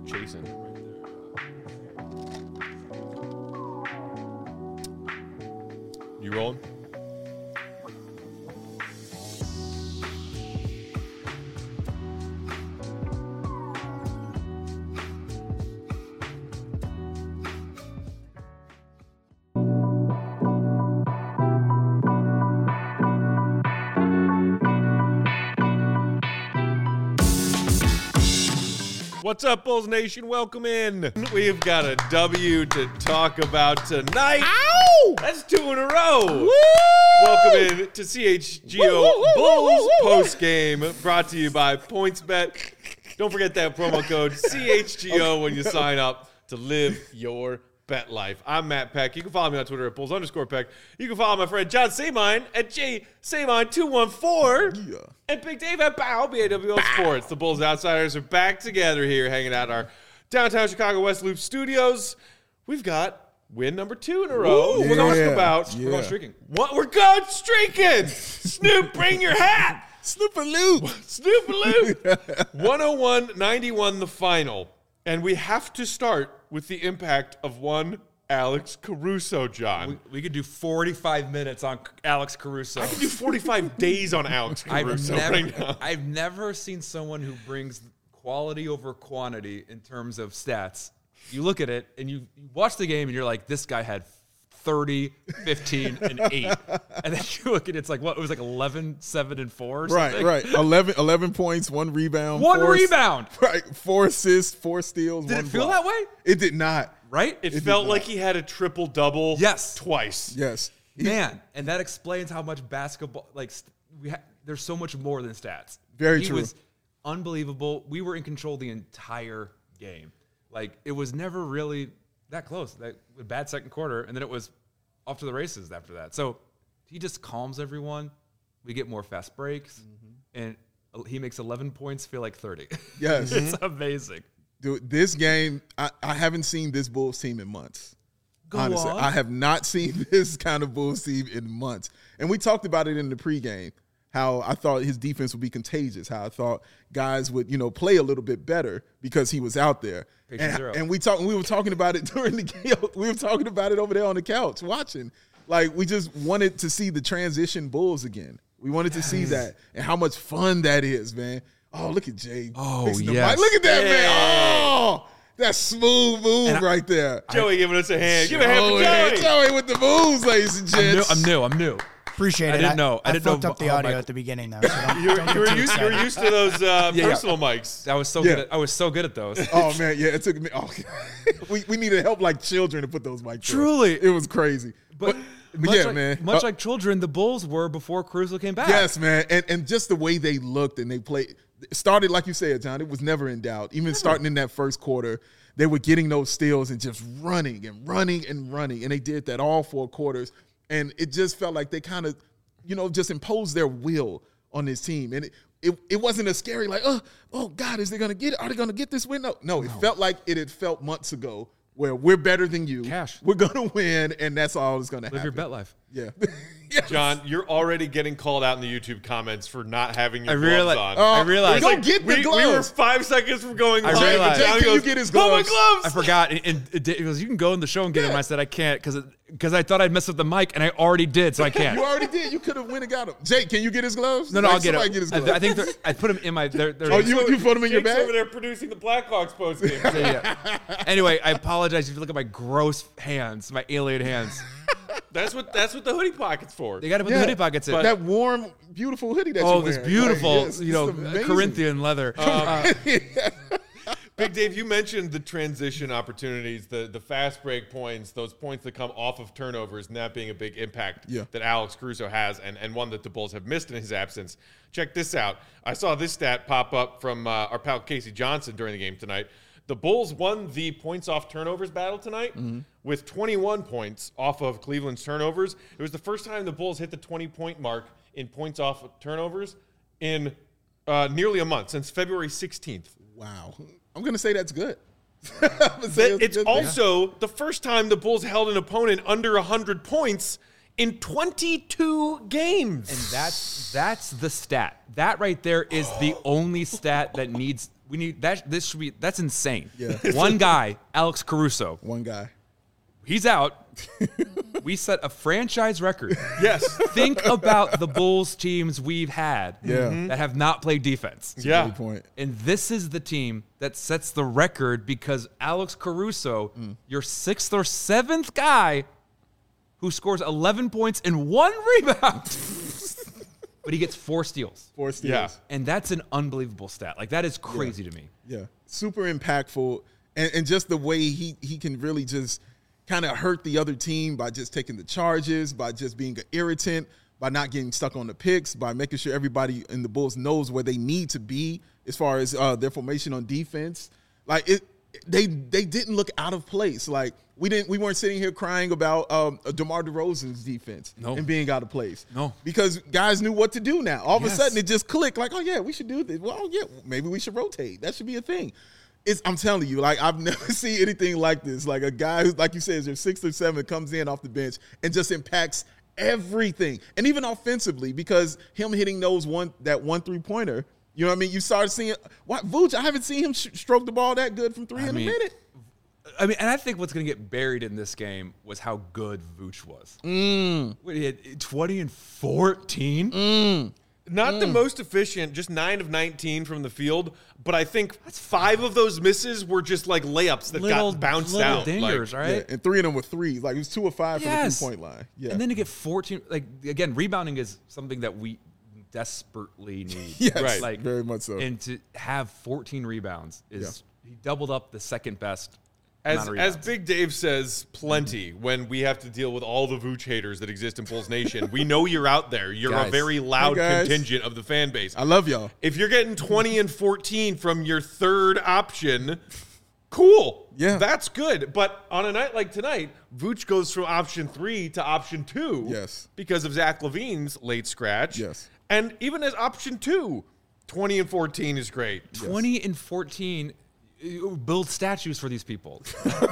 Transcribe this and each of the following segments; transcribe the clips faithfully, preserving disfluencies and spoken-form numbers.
chasing. You rolling? What's up, Bulls Nation? Welcome in. We've got a W to talk about tonight. Ow! That's two in a row. Woo! Welcome in to C H G O woo, woo, Bulls woo, woo, woo. Post Game, brought to you by PointsBet. Don't forget that promo code C H G O when you sign up to live your bet life. I'm Matt Peck. You can follow me on Twitter at Bulls underscore Peck. You can follow my friend John Samine at J Samine two one four. Yeah. And Big Dave at Bow, B A W L Sports. The Bulls Outsiders are back together here, hanging out our downtown Chicago West Loop studios. We've got win number two in a row. Ooh, we're yeah, going about. yeah. We're going streaking. What? We're going streaking. Snoop, bring your hat. Snoop-a-loop. Snoop-a-loop. one oh one ninety-one the final. And we have to start with the impact of one Alex Caruso, John. We, we could do forty-five minutes on Alex Caruso. I could do forty-five days on Alex Caruso I've never, right now. I've never seen someone who brings quality over quantity in terms of stats. You look at it and you, you watch the game and you're like, this guy had thirty, fifteen, and eight. And then you look at it, it's like, what? It was like eleven, seven, and four or Right, something? right. eleven, eleven points, one rebound. One four, rebound. Right. Four assists, four steals, Did one it feel block. that way? It did not. Right? It, It felt did like not. he had a triple-double Yes. twice. Yes. He- Man, and that explains how much basketball, like, st- we ha- there's so much more than stats. Very he true. He was unbelievable. We were in control the entire game. Like, it was never really that close. That a bad second quarter, and then it was off to the races after that. So he just calms everyone. We get more fast breaks, mm-hmm. and he makes eleven points feel like thirty. Yes. It's amazing. Dude, this game, I, I haven't seen this Bulls team in months. Go Honestly, on. I have not seen this kind of Bulls team in months. And we talked about it in the pregame, how I thought his defense would be contagious, how I thought guys would, you know, play a little bit better because he was out there. Patient And, zero. and we talked, we were talking about it during the game. We were talking about it over there on the couch watching. Like, we just wanted to see the transition Bulls again. We wanted to see that and how much fun that is, man. Oh, look at Jay. Oh, fixing the yes. mic. Look at that, Yeah. man. Oh, that smooth move And I- right there. Joey giving us a hand. Give a hand for Joey, Joey. Joey with the moves, ladies and I'm new. gents. I'm new. I'm new. Appreciate I it. didn't know. I I, didn't fucked know up the how audio my- at the beginning, though. So don't, You were, don't you, get were too used, you were excited. used to those uh, Yeah, yeah. personal mics. I was so Yeah. good. At, I was so good at those. Oh, man, yeah, it took me. Oh, we, we needed help like children to put those mics in. Truly. It was crazy. But, But, much yeah, like, man. Much Uh, like children, the Bulls were before Caruso came back. Yes, man. And and just the way they looked and they played. It started, like you said, John, it was never in doubt. Even starting in that first quarter, they were getting those steals and just running and running and running. And they did that all four quarters. And it just felt like they kind of, you know, just imposed their will on this team. And it, it, it wasn't as scary like, oh, oh God, is they going to get it? Are they going to get this win? No, no, it felt like it had felt months ago where we're better than you. Cash. We're going to win, and that's all that's going to happen. Live your bet life. Yeah. Yes. John, you're already getting called out in the YouTube comments for not having your I gloves realize- on. Oh, I realized- Go Like, get the we, we were gloves. five seconds from going I live, and realized- John Jay, can you goes, get his "Oh, my gloves?" gloves!" I forgot. And, and it, it was, you can go in the show and get Yeah. them. I said, I can't because because I thought I'd mess with the mic, and I already did, so I can't. You already did. You could have went and got him. Jake, can you get his gloves? no, no, Like, I'll get somebody it. Get his I, gloves. I think they're- I put them in my. They're, they're, Oh, you, you put them in your Jake's bag? over there producing the Blackhawks post game. yeah. Anyway, I apologize if you look at my gross hands, my alien hands. That's what that's what the hoodie pocket's for. They got to put Yeah. the hoodie pockets in. That warm, beautiful hoodie that oh, you're this wearing. beautiful, Like, yes, you know, it's amazing. Corinthian leather. Uh, Big Dave, you mentioned the transition opportunities, the the fast break points, those points that come off of turnovers, and that being a big impact Yeah. that Alex Caruso has, and, and one that the Bulls have missed in his absence. Check this out. I saw this stat pop up from uh, our pal Casey Johnson during the game tonight. The Bulls won the points off turnovers battle tonight Mm-hmm. with twenty-one points off of Cleveland's turnovers. It was the first time the Bulls hit the twenty-point mark in points off of turnovers in uh, nearly a month, since February sixteenth. Wow. I'm going to say that's good. I'm gonna say But it's good. also the first time the Bulls held an opponent under one hundred points in twenty-two games. And that's that's the stat. That right there is the only stat that needs We need that. This should be. That's insane. Yeah. One guy, Alex Caruso. One guy. He's out. We set a franchise record. Yes. Think about the Bulls teams we've had Yeah. that have not played defense. Yeah. Good point. And this is the team that sets the record because Alex Caruso, Mm. your sixth or seventh guy, who scores eleven points and one rebound, but he gets four steals. Four steals. Yeah. And that's an unbelievable stat. Like, that is crazy to me. Yeah, super impactful, and, and just the way he he can really just kind of hurt the other team by just taking the charges, by just being an irritant, by not getting stuck on the picks, by making sure everybody in the Bulls knows where they need to be as far as uh, their formation on defense. Like it, they they didn't look out of place. Like we didn't we weren't sitting here crying about um, DeMar DeRozan's defense No. and being out of place. No. Because guys knew what to do now. All of Yes. a sudden it just clicked. Like, oh yeah, we should do this. Well, oh, yeah, maybe we should rotate. That should be a thing. It's, I'm telling you, like I've never seen anything like this. Like a guy who, like you said, is your sixth or seven, comes in off the bench and just impacts everything, and even offensively, because him hitting those one that one three pointer. You know what I mean? You started seeing what Vooch. I haven't seen him sh- stroke the ball that good from three I in mean, a minute. I mean, and I think what's going to get buried in this game was how good Vooch was. Mm. What, he had twenty and fourteen. Mm. Not the most efficient, just nine of nineteen from the field, but I think five of those misses were just like layups that Little, got bounced little out. dingers, Like, right? Yeah, and three of them were threes. Like it was two or five Yes. from the three point line. Yeah, And then to get fourteen, like, again, rebounding is something that we desperately need. yes, Right. Like, very much so. And to have fourteen rebounds is, he doubled up the second best As, amount of as rebounds. Big Dave says, plenty when we have to deal with all the Vooch haters that exist in Bulls Nation. We know you're out there. You're a Guys. very loud Hey, guys. contingent of the fan base. I love y'all. If you're getting twenty and fourteen from your third option, cool. Yeah. That's good. But on a night like tonight, Vooch goes from option three to option two. Yes. Because of Zach LaVine's late scratch. Yes. And even as option two, twenty and fourteen is great. twenty and fourteen uh, build statues for these people.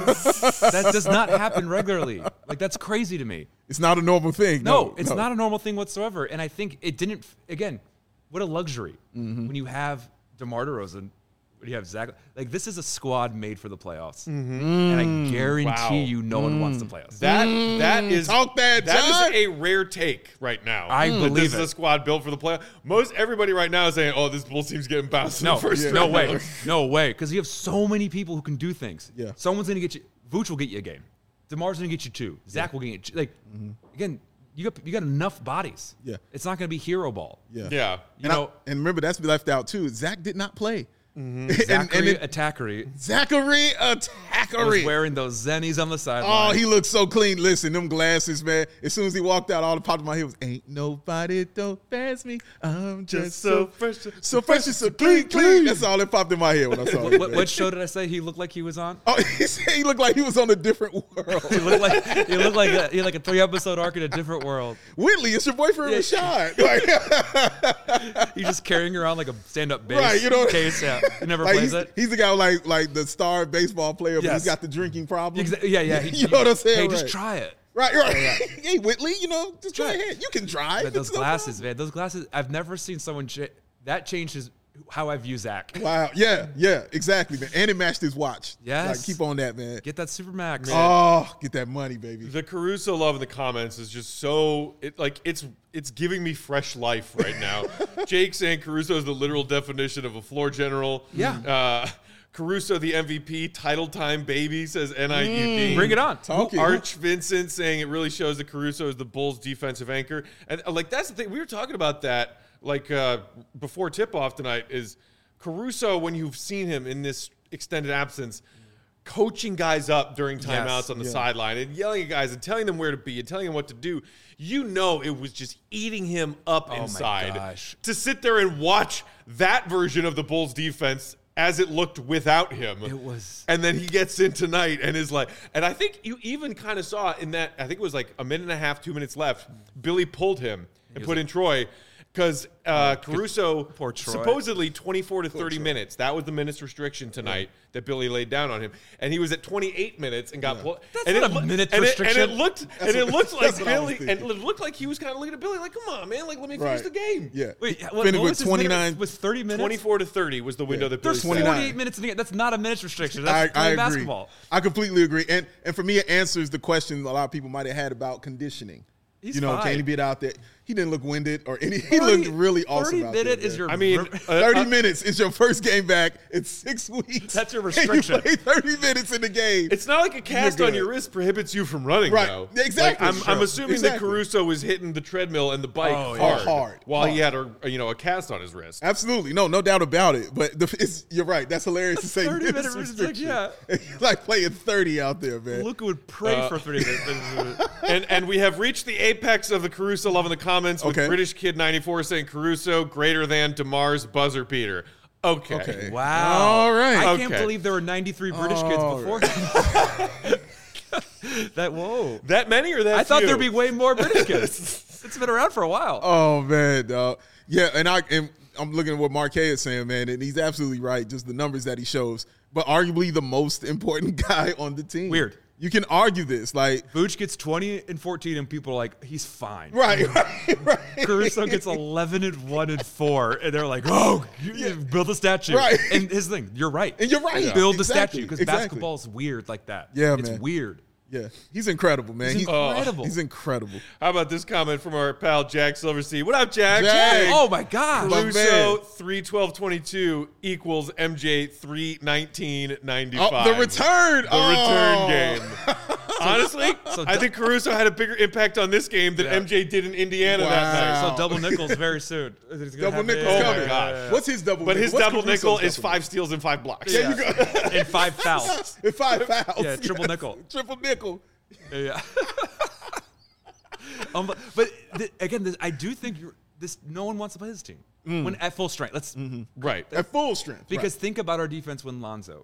That does not happen regularly. Like, that's crazy to me. It's not a normal thing. No, No, it's no. not a normal thing whatsoever. And I think it didn't, again, what a luxury Mm-hmm. when you have DeMar DeRozan, when you have Zach. Like, this is a squad made for the playoffs. And I guarantee Wow. you no one wants the playoffs. That that is Talk that, that John. is a rare take right now. I That believe this is it. a squad built for the playoff. Most everybody right now is saying, "Oh, this Bulls team's getting bounced No, in the first no round." way. No way. Because you have so many people who can do things. Yeah. Someone's going to get you. Vooch will get you a game. DeMar's going to get you two. Zach will get you. Like, again, you got you got enough bodies. Yeah. It's not going to be hero ball. Yeah. Yeah. You and, I- know, and remember, that's left out too. Zach did not play. And, Zachary and it- Attackery Zachary was Attackery. wearing those zennies on the Oh, sideline. he looked so clean. Listen, them glasses, man. As soon as he walked out, all that popped in my head was, "Ain't nobody don't pass me. I'm just, Just so so fresh, so fresh and so clean, clean." That's all that popped in my head when I saw what, it. what, man. what show did I say he looked like he was on? Oh, he said he looked like he was on a different world. He looked like he looked like a, he had like a three episode arc in a different world. Whitley, it's your boyfriend Yeah. Rashad. Like, He's just carrying around like a stand up bass Right, you know- case. Yeah, he never like, plays he's, it. he's the guy like like the star baseball player, but Yes. he's got the drinking problem. Exa- yeah, yeah. he- You know what I'm saying? Hey, Right. just try it. Right, right. Hey, Whitley, you know, just try Right. ahead. You can drive. But those It's no glasses, man. Those glasses. I've never seen someone cha- that changed his how I view Zach. problem. Wow. Yeah, yeah, exactly, man. And it matched his watch. Yes. Like, keep on that, man. Get that Supermax. Oh, get that money, baby. The Caruso love in the comments is just so it like it's it's giving me fresh life right now. Jake saying Caruso is the literal definition of a floor general. Yeah. Uh, Caruso the M V P, title time baby, says N I U D. Bring it on. Talking. Arch Vincent saying it really shows that Caruso is the Bulls' defensive anchor. And uh, like that's the thing. We were talking about that like uh, before tip-off tonight is Caruso, when you've seen him in this extended absence, coaching guys up during timeouts Yes. on the Yeah. sideline and yelling at guys and telling them where to be and telling them what to do. You know it was just eating him up Oh my inside. gosh. To sit there and watch that version of the Bulls defense as it looked without him. It was- And then he gets in tonight and is like, and I think you even kind of saw in that, I think it was like a minute and a half, two minutes left, Billy pulled him and was put in Troy. Because uh, Caruso Poor Troy. supposedly twenty-four to thirty minutes. That was the minutes restriction tonight yeah. that Billy laid down on him, and he was at twenty-eight minutes and got yeah. pulled. That's and not it, a minute and restriction. It, and it looked and it what, looked like Billy, and thinking. it looked like he was kind of looking at Billy like, "Come on, man, like let me right. finish the game." Yeah. Wait, what, Finished what with was his twenty-nine minute? Was thirty minutes? twenty-four to thirty was the window Yeah. that Billy There's said. forty-eight minutes in the game. That's not a minutes restriction. That's I, I playing agree. basketball. I completely agree. And and for me, it answers the question a lot of people might have had about conditioning. He's you know, fine. can he get out there? He didn't look winded or any. He looked really awesome. thirty out minute there, is man. your. I mean, ver- uh, thirty uh, minutes is your first game back in six weeks. That's your And restriction. you play thirty minutes in the game. It's not like a cast You're on good. your wrist prohibits you from running, Right. though. Exactly. Like, I'm, Sure. I'm assuming Exactly. that Caruso was hitting the treadmill and the bike Oh, yeah. hard, Oh, hard. while Hard. he had a you know a cast on his wrist. Absolutely, no, no doubt about it. But the, it's, you're right. That's hilarious to say. thirty minutes minute restriction, restriction. like playing thirty out there, man. Luka would pray Uh, for thirty minutes. and and we have reached the apex of the Caruso love in the comments with Okay. British Kid ninety-four saying Caruso greater than DeMar's buzzer beater. Okay. Okay. Wow. All right. I Okay. can't believe there were ninety-three British kids All before. that whoa. That many or that I thought few? there'd be way more British kids. It's been around for a while. Oh man, dog. Yeah, and I and I'm looking at what Marquez is saying, man, and he's absolutely right. Just the numbers that he shows, but arguably the most important guy on the team. Weird. You can argue this, like Vooch gets twenty and fourteen, and people are like, he's fine. right, right, right. Caruso gets eleven and one and four, and they're like, "Oh, you, you build a statue." Right. And his thing, you're right. And you're right. Build the Exactly. statue because Exactly. basketball's weird like that. Yeah, it's man. weird. Yeah, he's incredible, man. He's incredible. He's incredible. How about this comment from our pal Jack Silverstein? What up, Jack? Jack. Oh my gosh. My Caruso man. three twelve twenty-two equals M J three nineteen ninety-five. Oh, the return. The oh. return game. Honestly, so I think Caruso had a bigger impact on this game than Yeah. M J did in Indiana that night. Wow. So double nickels very soon. It's gonna Double happen. nickel's Oh my coming. gosh. What's his double? But nickel? his What's double Caruso's nickel is double five steals and five blocks. There you go. And five fouls. With five fouls. Yeah, triple nickel. Triple nickel. Yeah. um, but but th- again, this, I do think you're, this. No one wants to play this team when at full strength. Let's Right. At full strength. because think about our defense when Lonzo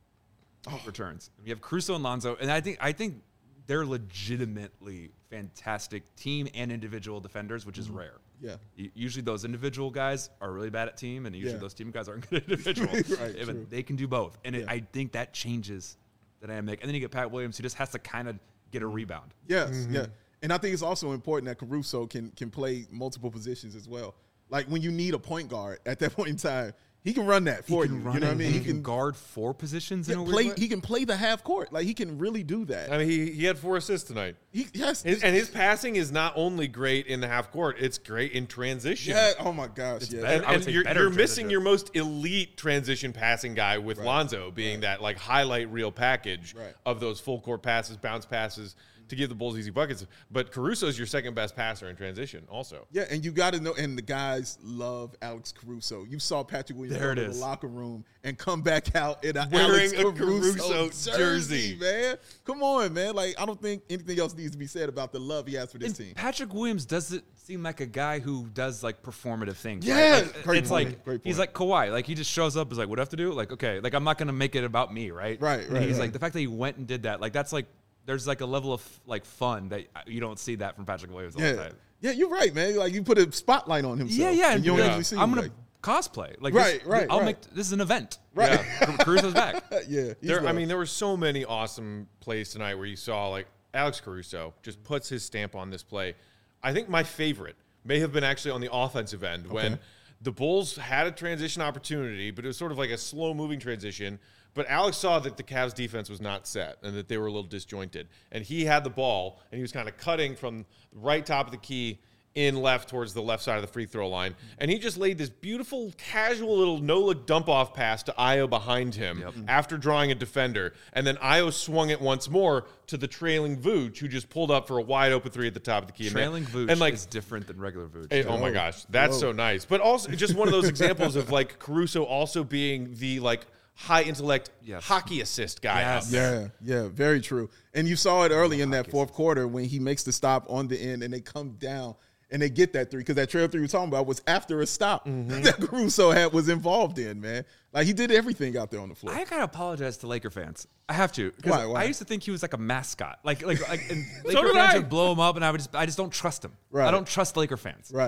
returns. We have Caruso and Lonzo, and I think I think they're legitimately fantastic team and individual defenders, which is rare. Yeah. U- Usually those individual guys are really bad at team, and usually Yeah. those team guys aren't good at individual. Right, Yeah, but true. they can do both, and it, Yeah. I think that changes the dynamic. And then you get Pat Williams, who just has to kind of get a rebound. Yes, Mm-hmm. yeah. And I think it's also important that Caruso can can play multiple positions as well. Like when you need a point guard at that point in time, he can run that for you. You know what I mean? He can guard four positions in yeah, a weird play. way. He can play the half court. Like he can really do that. I mean, he, he had four assists tonight. He, yes, His, and his passing is not only great in the half court, it's great in transition. yeah. Oh my gosh, yeah. better. And, I would and say you're, better you're in missing transition. your most elite transition passing guy with Lonzo being that like highlight reel package Right. of those full court passes, bounce passes to give the Bulls easy buckets. But Caruso's your second best passer in transition also. Yeah, and you got to know, and the guys love Alex Caruso. You saw Patrick Williams There go it to is. the locker room and come back out in a Wearing Alex a Caruso, Caruso jersey, jersey. man. Come on, man. Like I don't think anything else needs to be said about the love he has for this And team. Patrick Williams doesn't seem like a guy who does like performative things. Yeah, right? Like, great it's point, like great he's point. like Kawhi. Like he just shows up, is like, what do I have to do? Like okay, like I'm not gonna make it about me, right? Right, And right, he's right. like the fact that he went and did that. Like that's like there's like a level of like fun that you don't see that from Patrick Williams all the Yeah, time. yeah, you're right, man. Like you put a spotlight on himself. Yeah, yeah. and And you don't like, usually see I'm him gonna like- cosplay. Like Right, this, right, I'll right. make this is an event. Right. Yeah. Caruso's back. yeah. he's There, I loved. mean, there were so many awesome plays tonight where you saw like Alex Caruso just puts his stamp on this play. I think my favorite may have been actually on the offensive end when the Bulls had a transition opportunity, but it was sort of like a slow moving transition. But Alex saw that the Cavs defense was not set and that they were a little disjointed. And he had the ball and he was kind of cutting from the right top of the key in left towards the left side of the free throw line. And he just laid this beautiful, casual little no-look dump-off pass to Ayo behind him Yep. after drawing a defender. And then Ayo swung it once more to the trailing Vooch, who just pulled up for a wide-open three at the top of the key. Trailing Vooch and like, is different than regular Vooch. Hey, oh my gosh, that's so nice. But also just one of those examples of like Caruso also being the like high intellect Yes. hockey assist guy. Yes. Out there. Yeah, yeah, very true. And you saw it early in that fourth quarter when he makes the stop on the end and they come down and they get that three because that trail three you're talking about was after a stop that Caruso had was involved in, man. Like he did everything out there on the floor. I gotta apologize to Laker fans. I have to. 'cause Why, why? I used to think he was like a mascot. Like, like, like, and So Laker did fans I. would blow him up, and I would just, I just don't trust him. Right. I don't trust Laker fans. right.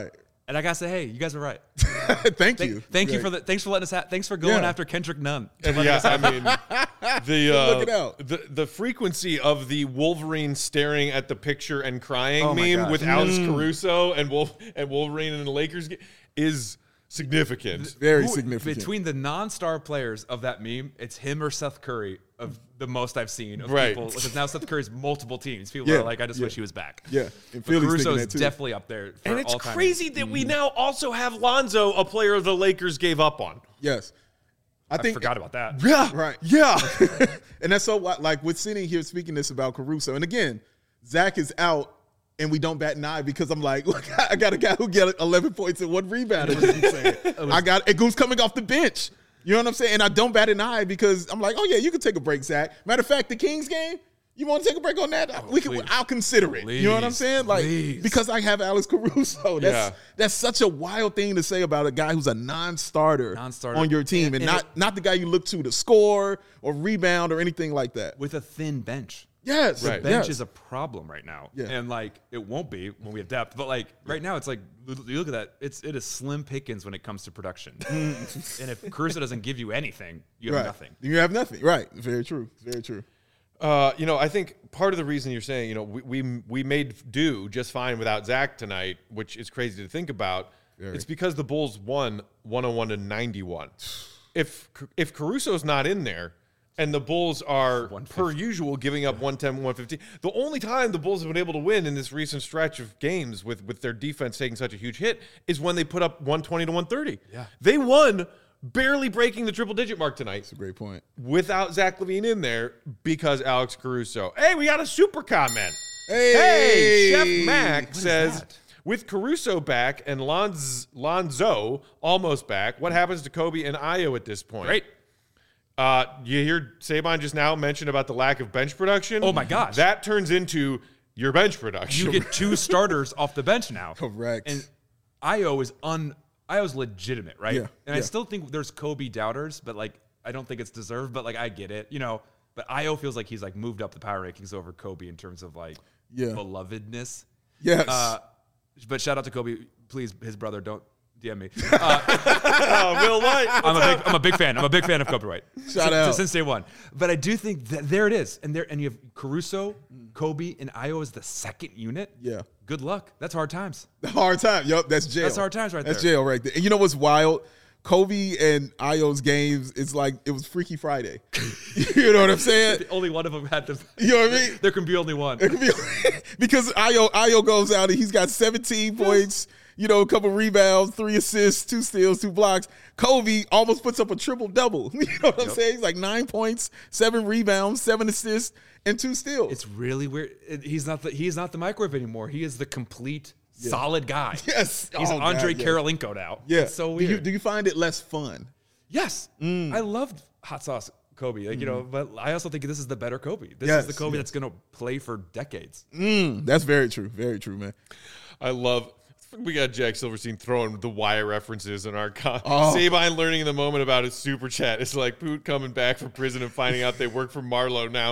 And I gotta say, hey, you guys are right. Thank Thank, you. thank you Right. for the, thanks for letting us. Ha- thanks for going Yeah. after Kendrick Nunn. And yeah, I mean, the uh, Look it out. the the frequency of the Wolverine staring at the picture and crying Oh my meme gosh. with Alex Caruso and Wolf and Wolverine in the Lakers ga- is significant. Very Who- significant. Between the non-star players of that meme, it's him or Seth Curry of the most I've seen of Right. people. Because now Seth Curry's multiple teams. People Yeah, are like, I just yeah. wish he was back. Yeah, But and Philly's Caruso thinking is that too. definitely up there. For And it's all-time. crazy that we now also have Lonzo, a player the Lakers gave up on. Yes. I I think forgot about that. Yeah, Right. Yeah, and that's so why- like with sitting here speaking this about Caruso. And again, Zach is out and we don't bat an eye because I'm like, look, I got a guy who get eleven points and one rebound. Is what I'm saying. I got and who's coming off the bench. You know what I'm saying? And I don't bat an eye because I'm like, oh yeah, you can take a break, Zach. Matter of fact, the Kings game, you want to take a break on that? we can. please. I'll consider it. you know what I'm Please, saying? Like please. because I have Alex Caruso. That's Yeah. that's such a wild thing to say about a guy who's a non-starter, Non-starter. on your team, and, And- and not it- not the guy you look to to score or rebound or anything like that. With a thin bench. Yes, Right. Bench yes. is a problem right now. Yeah. And like it won't be when we have depth. But like right now it's like you look at that, it's it is slim pickings when it comes to production. and if Caruso doesn't give you anything, you have right. nothing. You have nothing. Right. Very true. Very true. Uh, you know, I think part of the reason you're saying, you know, we we, we made do just fine without Zach tonight, which is crazy to think about. Very. It's because the Bulls won one oh one to ninety-one. If if Caruso's not in there and the Bulls are per usual giving up one ten, one fifteen, the only time the Bulls have been able to win in this recent stretch of games with with their defense taking such a huge hit is when they put up one twenty to one thirty. Yeah. They won barely breaking the triple digit mark tonight That's a great point. without Zach LaVine in there because Alex Caruso. Hey, we got a super comment. Hey, Hey, Chef Mac is says, that? with Caruso back and Lonz, Lonzo almost back, what happens to Kobe and Ayo at this point? Great. Uh, you hear Saban just now mention about the lack of bench production? Oh, my gosh. That turns into your bench production. You get two starters off the bench now. Correct. And Io is un Io's legitimate, right? Yeah, And I yeah. still think there's Kobe doubters, but like I don't think it's deserved, but like I get it, you know. But Io feels like he's like moved up the power rankings over Kobe in terms of like Yeah. belovedness. Yes. Uh, but shout out to Kobe, please, his brother, don't D M me. Uh, Oh, Will White. I'm a big, I'm a big fan. I'm a big fan of Kobe White. Shout since, out. since day one. But I do think that there it is, and there, and you have Caruso, Kobe, and Io as the second unit. Yeah. Good luck. That's hard times. Hard time. Yup, that's jail. That's hard times right That's there. jail right there. And you know what's wild? Kobe and Io's games, it's like it was Freaky Friday. You know what I'm saying? Only one of them had to. You know what I mean? There can be only one. It could be because Io Io goes out and he's got seventeen points, you know, a couple rebounds, three assists, two steals, two blocks. Kobe almost puts up a triple double. You know what I'm saying? He's like nine points, seven rebounds, seven assists, and two steals. It's really weird. It- He's not the he's not the microwave anymore. He is the complete solid guy. Yes. He's Oh, Andre God, yes. Karolinko now. yeah. It's so Do weird. you, do you find it less fun? yes, Mm. I loved hot sauce Kobe. Like you know, but I also think this is the better Kobe. This Yes, is the Kobe yes. that's going to play for decades. Mm, that's very true. Very true, man. I love. We got Jack Silverstein throwing the wire references in our con. Oh. Sabine learning in the moment about his super chat. It's like Poot coming back from prison and finding out they work for Marlowe now.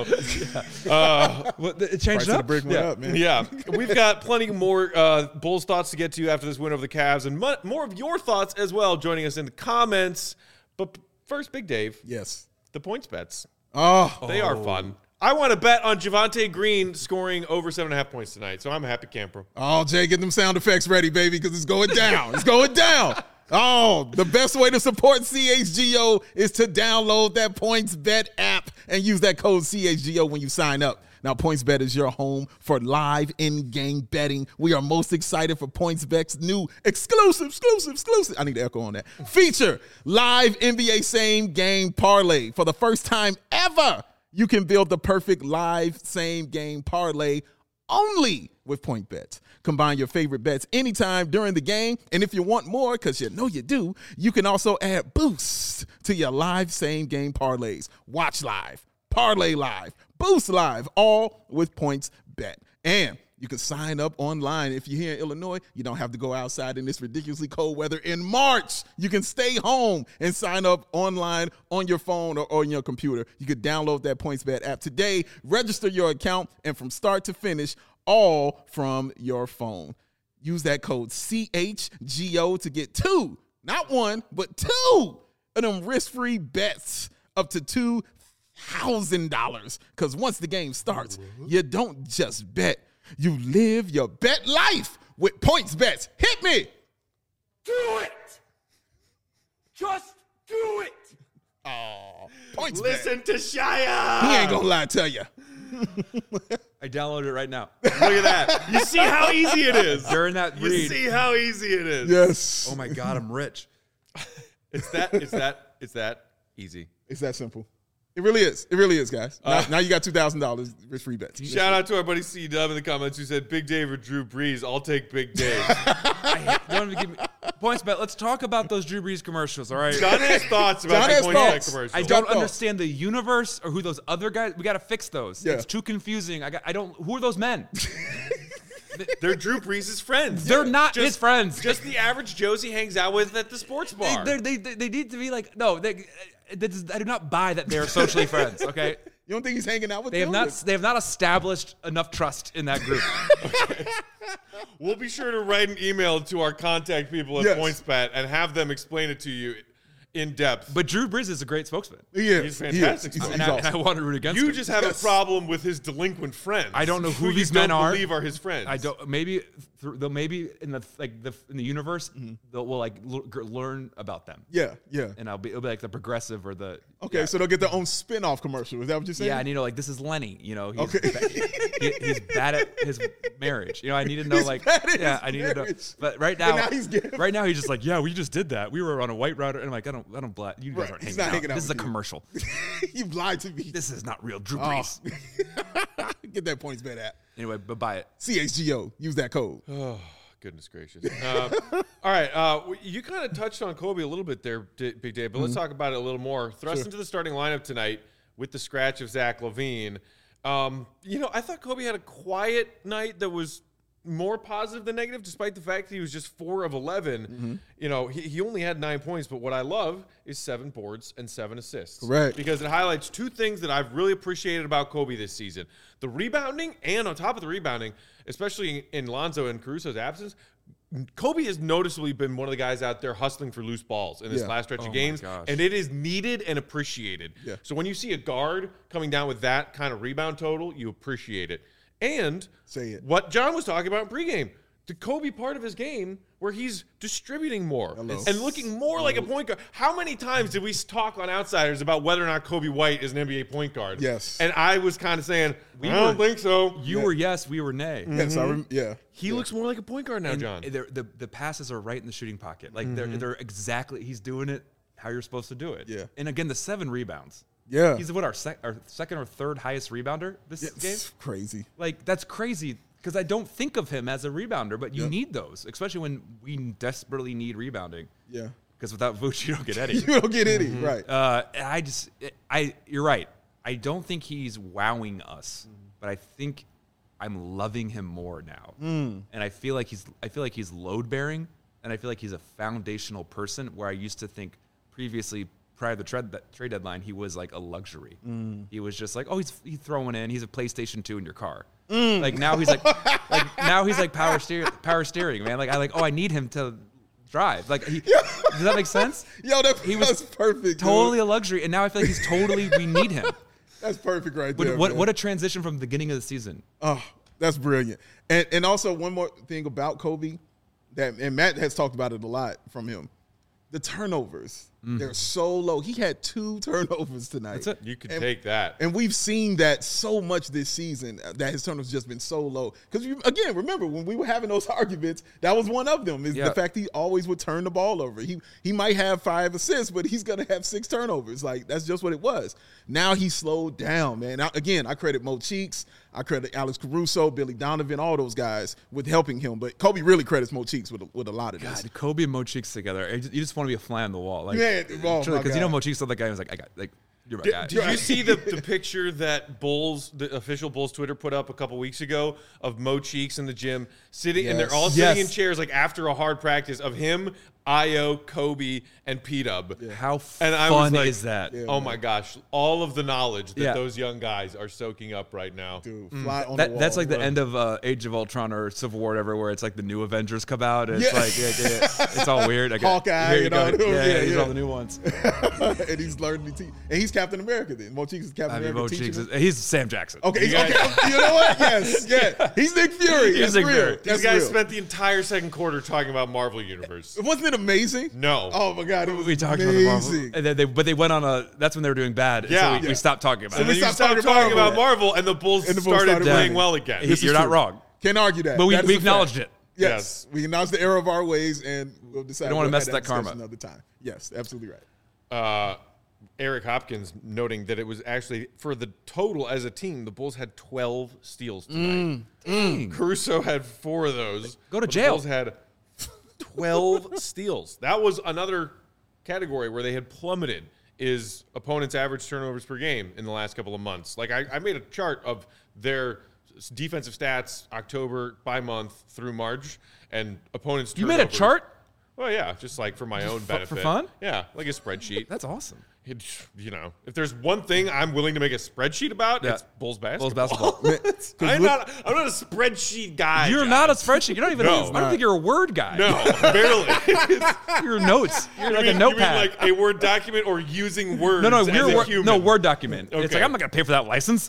Uh, Well, it changed Price it of the up. brick went Yeah. up, man. yeah, we've got plenty more uh, Bulls thoughts to get to after this win over the Cavs, and mu- more of your thoughts as well. Joining us in the comments. But first, Big Dave, Yes. the points bets. Oh, They are fun. I want to bet on Javante Green scoring over seven and a half points tonight, so I'm a happy camper. oh, Jay, get them sound effects ready, baby, because it's going down. It's going down. Oh, the best way to support C H G O is to download that PointsBet app and use that code C H G O when you sign up. Now, PointsBet is your home for live in-game betting. We are most excited for PointsBet's new exclusive, exclusive, exclusive. I need to echo on that. Feature live N B A same-game parlay. For the first time ever, you can build the perfect live same-game parlay only with PointsBet. Combine your favorite bets anytime during the game. And if you want more, because you know you do, you can also add boosts to your live same-game parlays. Watch live, parlay live, boost live, all with PointsBet. And you can sign up online. If you're here in Illinois, you don't have to go outside in this ridiculously cold weather in March. You can stay home and sign up online on your phone or on your computer. You can download that PointsBet app today, register your account, and from start to finish, all from your phone. Use that code C H G O to get two, not one, but two of them risk-free bets up to two thousand dollars. Because once the game starts, you don't just bet. You live your bet life with Points Bets. Hit me. Do it! Just do it! Oh, Points Listen Bet. to Shia. He ain't gonna lie to you. I downloaded it right now. Look at that. You see how easy it is. During that You read. see how easy it is. Yes. Oh my God, I'm rich. It's that. It's that. It's that easy. It's that simple. It really is. It really is, guys. Now, Uh, now you got two thousand dollars risk-free bets. Shout out to our buddy C Dub in the comments who said Big Dave or Drew Brees. I'll take Big Dave. I don't even give me points bet. Let's talk about those Drew Brees commercials, all right? John has thoughts about John the has Points Bet thoughts. commercial. I Got don't thoughts. understand the universe or who those other guys. We got to fix those. Yeah. It's too confusing. I got. I don't. Who are those men? They're Drew Brees' friends. They're not Just- his friends. Just the average Joes he hangs out with at the sports They, bar. they're- they, they, they need to be like no. They, that is, I do not buy that they're socially friends. Okay. You don't think he's hanging out with They have them? not. They have not established enough trust in that group. We'll be sure to write an email to our contact people at Yes. PointsBet and have them explain it to you in depth. But Drew Brees is a great spokesman, He is. He's He is. fantastic. He's, and he's I, and I awesome. want to root against you him. just have Yes. a problem with his delinquent friends. I don't know who you these don't men are. Believe are his friends. I don't. Maybe through, they'll maybe in the like the in the universe Mm-hmm. they'll we'll like l- g- learn about them, Yeah, yeah. and I'll be it'll be like the progressive or the Okay, yeah. so they'll get their own spin-off commercial. Is that what you're saying? Yeah, and you know, like this is Lenny. You know, he's, Okay. ba- he- he's bad at his marriage. You know, I need to know, He's like, bad at yeah, his I need to know. marriage. But right But now, now he's getting- right now, he's just like, yeah, we just did that. We were on a white router, and I'm like, I don't, I don't, bla- you guys Right, aren't he's hanging, not out. hanging out This is a with you. commercial. You lied to me. This is not real, Drew Oh. Brees. Get that Points Bet app. Anyway, but buy it. C H G O. Use that code. Oh, goodness gracious. Uh, all right. Uh, w- you kind of touched on Kobe a little bit there, D- Big Dave, but let's talk about it a little more. Thrust Sure. into the starting lineup tonight with the scratch of Zach LaVine. Um, you know, I thought Kobe had a quiet night that was more positive than negative, despite the fact that he was just four of eleven. You know, he, he only had nine points, but what I love is seven boards and seven assists. Correct. Because it highlights two things that I've really appreciated about Kobe this season. The rebounding, and on top of the rebounding, especially in Lonzo and Caruso's absence, Kobe has noticeably been one of the guys out there hustling for loose balls in this Yeah. last stretch Oh of my games, gosh. and it is needed and appreciated. Yeah. So when you see a guard coming down with that kind of rebound total, you appreciate it. And Say it. what John was talking about in pregame, the Kobe part of his game where he's distributing more Hello. and looking more like a point guard. How many times did we talk on Outsiders about whether or not Kobe White is an N B A point guard? Yes. And I was kind of saying, We I don't were- think so. You were yes, we were nay. Yes, I rem- yeah. He looks more like a point guard now, And John. they're- the the passes are right in the shooting pocket. Like they're they're exactly. He's doing it how you're supposed to do it. Yeah. And again, the seven rebounds. Yeah. He's what our sec, our second or third highest rebounder this Yeah, game. it's crazy. Like that's crazy because I don't think of him as a rebounder, but you Yep. need those, especially when we desperately need rebounding. Yeah. Because without Vooch, you don't get Eddie. You don't get any, right. Uh, and I just, I, you're right. I don't think he's wowing us, but I think I'm loving him more now. And I feel like he's, I feel like he's load bearing, and I feel like he's a foundational person. Where I used to think previously, prior to the trade, that trade deadline, he was like a luxury. He was just like, oh, he's he's throwing in. He's a PlayStation two in your car. Like now he's like, like now he's like power steer, power steering, man. Like I like, oh, I need him to drive. Like, he, does that make sense? Yo, that, He was that's perfect. Totally dude. a luxury, and now I feel like he's totally. We need him. That's perfect right What there. what, man. what a transition from the beginning of the season. Oh, that's brilliant. And and also one more thing about Kobe that and Matt has talked about it a lot from him. The turnovers. They're so low. He had two turnovers tonight. That's it. You could And- take that. And we've seen that so much this season uh, that his turnovers just been so low. Because again, remember when we were having those arguments, that was one of them. Is Yeah. the fact he always would turn the ball over. He he might have five assists, but he's gonna have six turnovers. Like that's just what it was. Now he slowed down, man. Now, again, I credit Mo Cheeks, I credit Alex Caruso, Billy Donovan, all those guys with helping him. But Kobe really credits Mo Cheeks with a, with a lot of this. God, Kobe and Mo Cheeks together. I just- You just want to be a fly on the wall, like Man, oh my because you know God. Mo Cheeks told that guy who was like, I got like you're my Did, guy. did you see the, the picture that Bulls, the official Bulls Twitter put up a couple weeks ago of Mo Cheeks in the gym sitting, and they're all Yes. sitting Yes. in chairs like after a hard practice of him Io, Kobe, and P-Dub. Yeah. How and I fun was like, is that? Yeah, oh man. my gosh, all of the knowledge that Yeah. those young guys are soaking up right now. Dude, fly on That, the wall. that's like the bro. end of uh, Age of Ultron or Civil War, or whatever, where it's like the new Avengers come out. And it's Yeah. like, yeah, yeah, it's all weird. Like, Hawkeye, here you you go. know, Yeah, yeah, these yeah. are all the new ones. and he's learning to teach. And he's Captain America then. Mo Cheeks is Captain I mean, America. Mo teaching Cheeks him. is, he's Sam Jackson. Okay, You guys- okay. You know what? Yes, yeah. He's Nick Fury. He's That's Nick real. Fury. These That's guys real. spent the entire second quarter talking about Marvel Universe. Wasn't it amazing? No. Oh my god, it was We talked amazing. about the Marvel, and then they, but they went on a. That's when they were doing bad. Yeah. so we, Yeah. we stopped talking about And it. then we you stopped stopped talking talking Marvel. about Marvel, and the Bulls, And the Bulls started, started playing winning. well again. He- This is You're not true. wrong. Can't argue that. But we, That is we a fact. acknowledged it. Yes. Yes. We acknowledge the error of our ways, and we'll decide. We don't wanna we'll mess have with that karma. discussion Another time. Yes, absolutely right. uh, Eric Hopkins noting that it was actually for the total as a team, the Bulls had twelve steals tonight. Dang. Caruso had four of those. Go to but jail. The Bulls had twelve steals. That was another category where they had plummeted. Is opponents' average turnovers per game in the last couple of months? Like I, I made a chart of their s- defensive stats October by month through March, and opponents. You made a turnovers- chart? Well, yeah, just like for my own for benefit. fun? Yeah, like a spreadsheet. That's awesome. It, you know, if there's one thing I'm willing to make a spreadsheet about, Yeah. it's Bulls basketball. Bulls basketball. Man, 'cause I'm look- not. I'm not a spreadsheet guy. You're John. not a spreadsheet. You're not even. No. I don't think you're a word guy. No, barely. You're notes. You're You like mean- a you mean notepad. like a Word document or using words. no, no, as we're a wor- human. no Word document. It's Okay. like I'm not gonna pay for that license.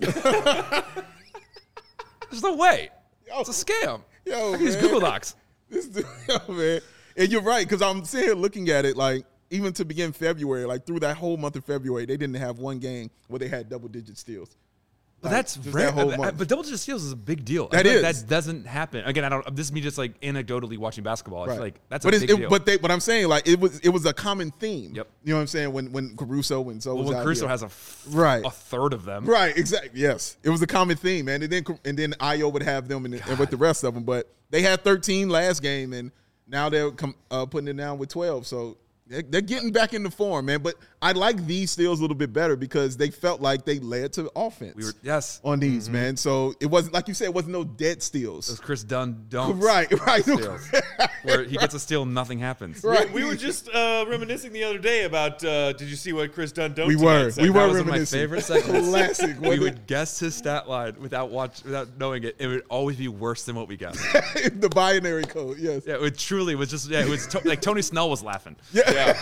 There's no way. It's a scam. Yo, I can use man. Google Docs. This dude, yo, man. And you're right, because I'm sitting here looking at it like, even to begin February, like through that whole month of February, they didn't have one game where they had double digit steals. But Like, that's just rare. that whole But, month. but double digit steals is a big deal. I That feel like is. That doesn't happen. Again, I don't. This is me just like anecdotally watching basketball. I Right. feel like that's but a it's, big it, deal. But they, but I'm saying like it was it was a common theme. Yep. You know what I'm saying? When when Caruso when so well, was when out Caruso here. has a f- Right. a third of them. Right, exactly. Yes, it was a common theme, man. And then and then Io would have them and, and with the rest of them, but they had thirteen last game, and now they're com- uh, putting it down with twelve. So they're, they're getting back into form, man. But I like these steals a little bit better because they felt like they led to offense. We were yes. on these, man. So it wasn't like you said, it wasn't no dead steals. Those Chris Dunn don't. Right, right. Steals. Where he gets a steal, nothing happens. Right. We were just uh, reminiscing the other day about. Uh, did you see what Chris Dunn done? We tonight were. said? We That were was one of my reminiscing. favorite segments. Classic. We wasn't would guess his stat line without watch without knowing it. It would always be worse than what we guessed. it? The binary code, yes. Yeah, it truly was just. Yeah, it was to, like Tony Snell was laughing. Yeah.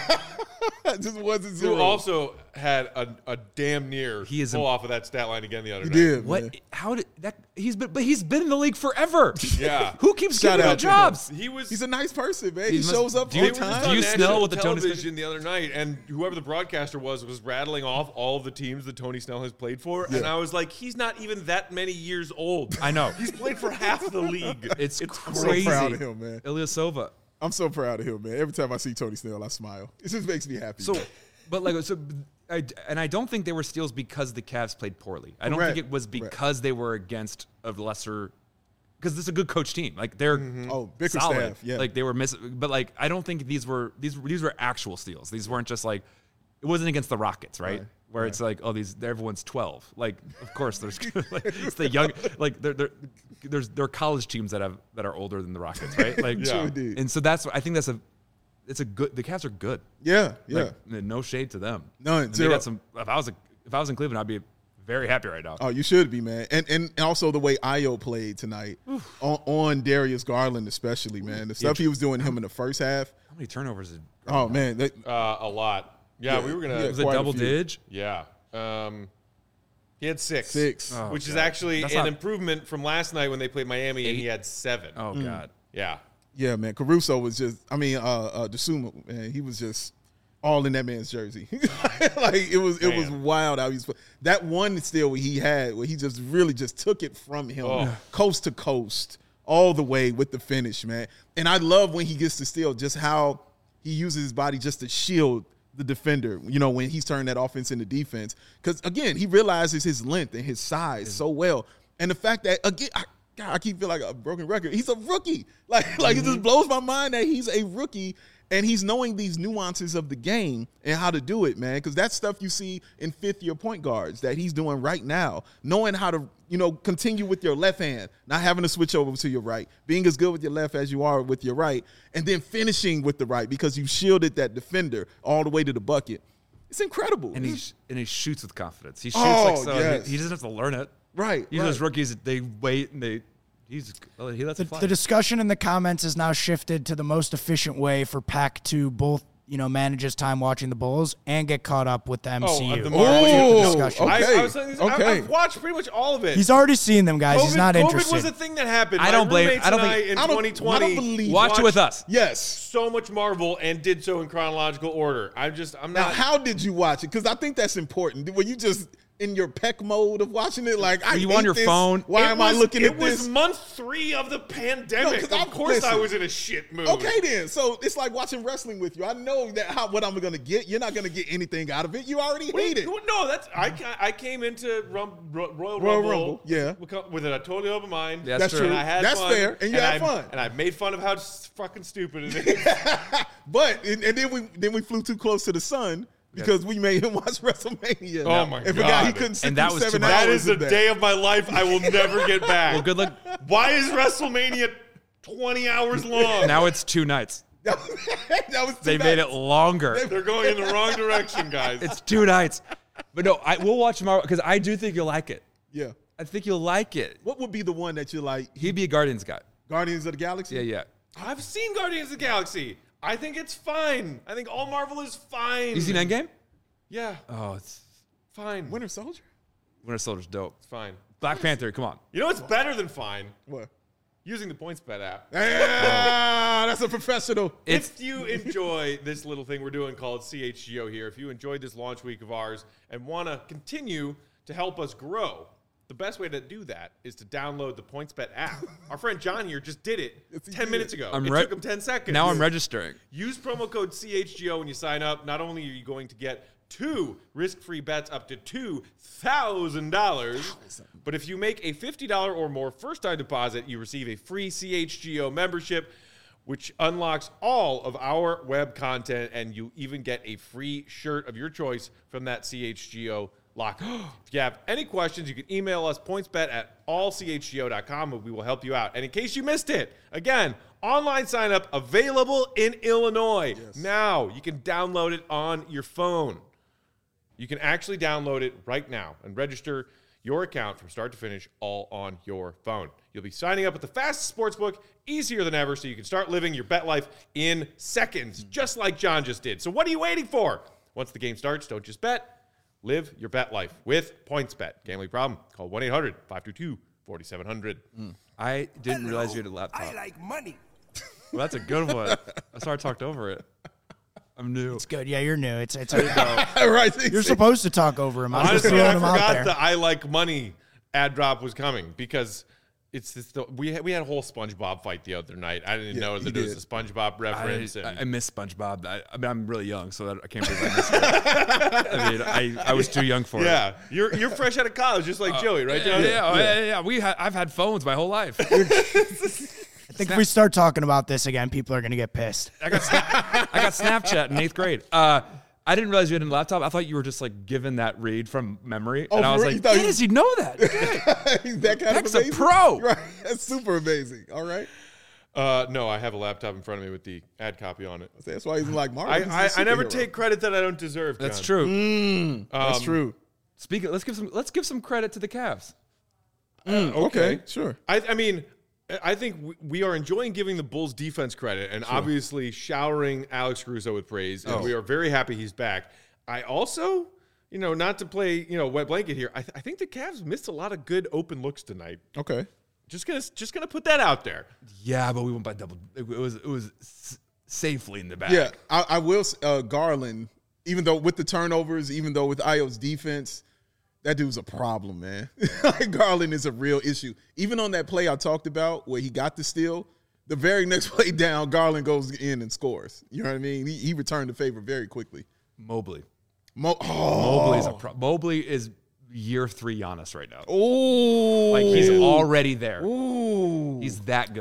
It just wasn't zero. Who also had a, a damn near He is pull a- off of that stat line again the other He night. did, What? man. How did that? He's been, but he's been in the league forever. Yeah. Who keeps Shout giving him out to him. jobs? He was. He's a nice person, man. He He, must- shows up do on you- They were just time. do on you national smell what the Tony television the other night, and whoever the broadcaster was was rattling off all of the teams that Tony Snell has played for, and I was like, he's not even that many years old. I know. He's played for half the league. It's, I'm crazy. so proud of him, man. Ilyasova. I'm so proud of him, man. Every time I see Tony Snell, I smile. It just makes me happy. So, man. but like, so, I, and I don't think they were steals because the Cavs played poorly. I don't Correct. think it was Correct. because they were against a lesser. Because this is a good coach team. Like they're Oh, Bickerstaff, solid. yeah. Like they were missing, but like I don't think these were these these were actual steals. These weren't just like it wasn't against the Rockets, right? Right. Where it's like, oh, these everyone's twelve. Like, of course, there's like, it's the young, like there there there's there are college teams that have that are older than the Rockets, right? Like, Yeah. True indeed. and so that's I think that's a it's a good. The Cavs are good. Yeah, yeah. Like, no shade to them. None, And they zero. got some. If I was a, if I was in Cleveland, I'd be very happy right now. Oh, you should be, man. And and also the way Io played tonight on, on Darius Garland, especially, man. The stuff he was doing to him in the first half. How many turnovers? Did, Oh man, that, Uh, a lot. Yeah, Yeah, we were gonna. yeah. was it quite a double few. dig? Yeah. Um, he had six. Six. Oh, which is God. actually That's an not- improvement from last night when they played Miami and he Eight. had seven. Oh God. Yeah. yeah, man. Caruso was just. I mean, uh, uh Desuma, man. He was just all in that man's jersey. Like it was, it was Man. wild how he was. That one steal he had, where he just really just took it from him, Oh. coast to coast, all the way with the finish, man. And I love when he gets to steal, just how he uses his body just to shield the defender, you know, when he's turning that offense into defense. Because, again, he realizes his length and his size so well. And the fact that, again, I, God, I keep feeling like a broken record. He's a rookie. Like, like it just blows my mind that he's a rookie And he's knowing these nuances of the game and how to do it, man, because that's stuff you see in fifth-year point guards that he's doing right now, knowing how to, you know, continue with your left hand, not having to switch over to your right, being as good with your left as you are with your right, and then finishing with the right because you shielded that defender all the way to the bucket. It's incredible. And he and he shoots with confidence. He shoots Oh, like so. yes. He, he doesn't have to learn it. Right, These right. those rookies, they wait and they he's he lets The, it fly. the discussion in the comments is now shifted to the most efficient way for Pack to both, you know, manage his time watching the Bulls and get caught up with the M C U. Oh, the That's Marvel the Oh, discussion. okay. I, I was saying this, I, okay. I've watched pretty much all of it. He's already seen them, guys. COVID, He's not COVID interested. was a thing that happened. I My don't blame- roommates I don't and think- I in I don't- twenty twenty I don't believe- Watch watched it with us. Yes. so much Marvel and did so in chronological order. I'm just, I'm Now, not. how did you watch it? Because I think that's important. Were you just in your peck mode of watching it? Like, I Were you hate on your this. phone? Why It am was- I looking it at was this? month three of the pandemic. No, 'cause of I- course, I listen. was in a shit mood. Okay, then. So it's like watching wrestling with you. I know that how, what I'm going to get. You're not going to get anything out of it. You already What do hate you- it. No, that's I. ca- I came into Rum, Ro- Royal, Royal Rumble, Rumble, yeah. with- with a totally open mind. Yeah, That's true. true. And I had That's fun, fair, and you had I, fun. And I made fun of how s- fucking stupid it is. But and, and then we then we flew too close to the sun because we made him watch WrestleMania. Oh, my and forgot he God. couldn't sit And that through was seven too much. hours That is a of that. day of my life I will never get back. Well, good luck. Why is WrestleMania twenty hours long? Now it's two nights. that was, that was They too made bad. it longer. They're going in the wrong direction, guys. It's two nights. But no, I we'll watch tomorrow because I do think you'll like it. Yeah. I think you'll like it. What would be the one that you're like? He'd be a Guardians guy. Guardians of the Galaxy. Yeah, yeah. I've seen Guardians of the Galaxy. I think it's fine. I think all Marvel is fine. You seen Endgame? Yeah, Oh, it's fine. Winter Soldier. Winter Soldier's dope. It's fine. Black Panther, come on. You know what's better than fine? What? Using the PointsBet app. Ah, that's a professional. It's If you enjoy this little thing we're doing called C H G O here, if you enjoyed this launch week of ours and want to continue to help us grow, the best way to do that is to download the PointsBet app. Our friend John here just did it Yes, he ten did. minutes ago. I'm it re- took him ten seconds. now I'm registering. Use promo code C H G O when you sign up. Not only are you going to get two risk-free bets up to two thousand dollars, but if you make a fifty dollars or more first-time deposit, you receive a free C H G O membership, which unlocks all of our web content, and you even get a free shirt of your choice from that C H G O locker. If you have any questions, you can email us, pointsbet at all c h g o dot com, and we will help you out. And in case you missed it, again, online sign-up available in Illinois. Now, you can download it on your phone. You can actually download it right now and register your account from start to finish all on your phone. You'll be signing up with the fastest sportsbook, easier than ever, so you can start living your bet life in seconds, just like John just did. So what are you waiting for? Once the game starts, don't just bet. Live your bet life with PointsBet. Gambling problem? Call one eight hundred five two two four seven zero zero. I didn't realize you had a laptop. I like money. Well, that's a good one. I sorry I talked over it. I'm new. It's good. Yeah, you're new. It's it's. right. You're supposed to talk over him. I'm just Honestly, throwing I him out forgot there. the I like money ad drop was coming because it's this, the, we had, we had a whole SpongeBob fight the other night. I didn't Yeah, know you that there was did. a SpongeBob I, reference. and I, I miss SpongeBob. I, I mean, I'm really young, so that, I can't believe I missed it. I mean, I, I was too young for yeah, it. you're you're fresh out of college, just like Joey, right? Yeah, John? yeah, yeah. yeah, We ha- I've had phones my whole life. I think if we start talking about this again, people are going to get pissed. I got Sna- I got Snapchat in eighth grade. Uh, I didn't realize you had a laptop. I thought you were just like given that read from memory, Oh, and I for was real? You like, thought "How you- does he know that?" He's that kind Beck's of a amazing. pro. Right. That's super amazing. All right. Uh, no, I have a laptop in front of me with the ad copy on it. That's why he's like Marvel. I He's a I, I never superhero. take credit that I don't deserve. That's John. true. That's Um, true. Speaking, let's give some let's give some credit to the Cavs. Okay. Sure. I, I mean, I think we- we are enjoying giving the Bulls defense credit and obviously showering Alex Caruso with praise. And Oh. we are very happy he's back. I also, you know, not to play, you know, wet blanket here. I, th- I think the Cavs missed a lot of good open looks tonight. Okay. Just gonna, just gonna put that out there. Yeah, but we went by double. It was it was s- safely in the back. Yeah, I, I will. s- Uh, Garland, even though with the turnovers, even though with Io's defense, that dude's a problem, man. Garland is a real issue. Even on that play I talked about where he got the steal, the very next play down, Garland goes in and scores. You know what I mean? He, he returned the favor very quickly. Mobley. Mo- oh, Mobley's a pro- Mobley is year three Giannis right now. oh, Like he's already there. Ooh. He's that good.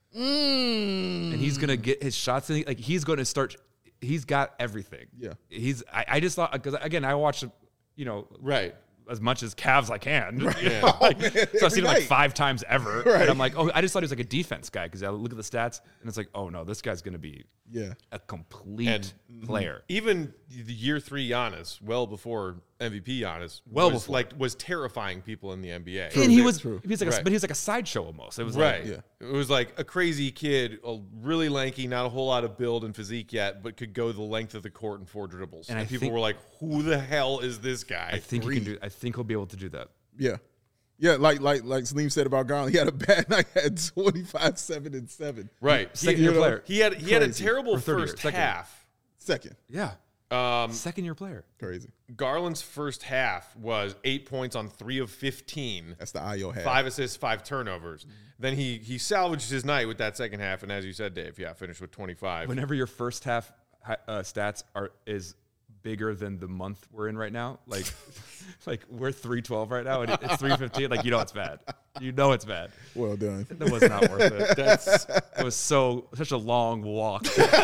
Mm. and he's gonna get his shots in. Like he's going to start. He's got everything. Yeah. He's. I, I just thought because again I watched, you know, Right. as much as Cavs I can. Yeah. Like, Oh, man, so I've seen him like every night. five times ever, Right. and I'm like, oh, I just thought he was like a defense guy because I look at the stats and it's like, oh no, this guy's gonna be Yeah. a complete And- player. Even the year three Giannis, well before M V P Giannis, Well was before. like was terrifying people in the N B A. and he True, was, true. he was like, a, Right. but he was like a sideshow almost. It was Right. like, Yeah. It was like a crazy kid, a really lanky, not a whole lot of build and physique yet, but could go the length of the court in four dribbles. And And, I people think- were like, "Who the hell is this I guy?" think he can do. I think he'll be able to do that. Yeah. Yeah, like like like Salim said about Garland, he had a bad night, had twenty-five, seven, and seven. Right. Second he, year you know, player. He had he had a Crazy. terrible Or third year, first second year. half. Second. Yeah, Um, second year player. Crazy. Garland's first half was eight points on three of fifteen. That's the I O half. Five assists, five turnovers. Mm-hmm. Then he he salvaged his night with that second half, and as you said, Dave, yeah, finished with twenty-five. Whenever your first half hi- uh, stats are is bigger than the month we're in right now, like like we're three twelve right now, and it's three fifteen. Like you know it's bad. You know it's bad. Well done. That was not worth it. That's It was so such a long walk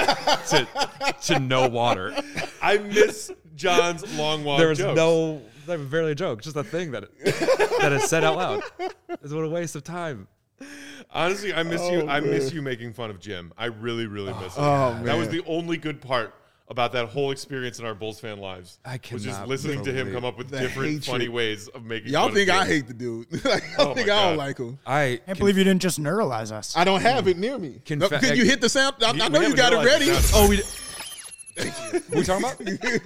to to no water. I miss John's long walk. There was jokes. no that was barely a joke, just a thing that that is said out loud. It's what a waste of time. Honestly, I miss you. Oh, I miss man. you making fun of Jim. I really, really miss it. Oh, That was man. the only good part about that whole experience in our Bulls fan lives. I was just cannot listening to him believe come up with the different, hatred. funny ways of making. Y'all fun think of I Jim. hate the dude. like, I Oh, think my I don't God. like him. I Can't believe you didn't just neuralize us. I don't have it near me. Can No, fa- Can you hit the sound? I, We- I we know you haven't got it realized ready. the sound. Oh, we. What are we talking about?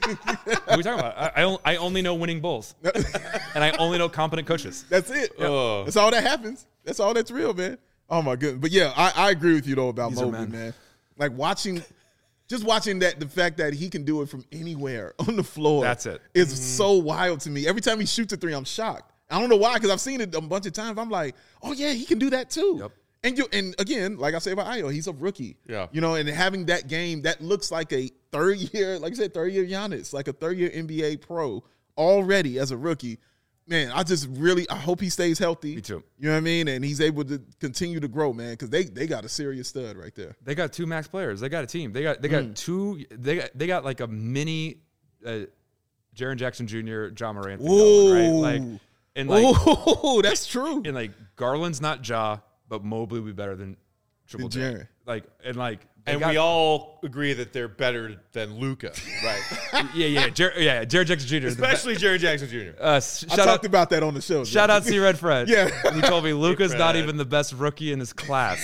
What are we talking about? I, I, on- I only know winning Bulls, and I only know competent coaches. That's it. Oh. That's all that happens. That's all that's real, man. Oh my goodness. But yeah, I, I agree with you though about These are Mobley, men. man. Like watching, just watching that, the fact that he can do it from anywhere on the floor. That's it. Is so wild to me. Every time he shoots a three, I'm shocked. I don't know why, because I've seen it a bunch of times. I'm like, oh yeah, he can do that too. Yep. And you and again, like I say about Ayo, he's a rookie. Yeah. You know, and having that game that looks like a third year, like I said, third year Giannis, like a third year N B A pro already as a rookie. Man, I just really I hope he stays healthy. Me too. You know what I mean? And he's able to continue to grow, man, because they they got a serious stud right there. They got two max players. They got a team. They got they got Mm. two. They got they got like a mini, uh, Jaren Jackson Junior, John Morant. thing Ooh. going, right? Like and like Oh, that's true. and like Garland's not Ja, but Mobley would be better than Triple Than J. Jaren. Like and like they And got- we all agree that they're better than Luca, right? yeah yeah Jer- yeah Jaren Jackson Junior is the Especially Jared Jackson Junior be- uh, sh- I shout talked out about that on the show. shout out C Red Fred. Yeah. he told me Luca's not Fred. even the best rookie in his class,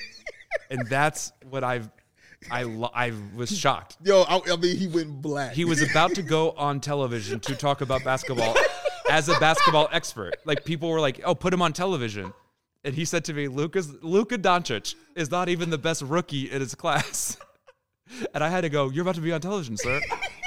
and that's what I've I lo- I was shocked. Yo, I, I mean, he went black. He was about to go on television to talk about basketball as a basketball expert. Like people were like, "Oh, put him on television," and he said to me, "Luka's Luka Doncic is not even the best rookie in his class." And I had to go, "You're about to be on television, sir,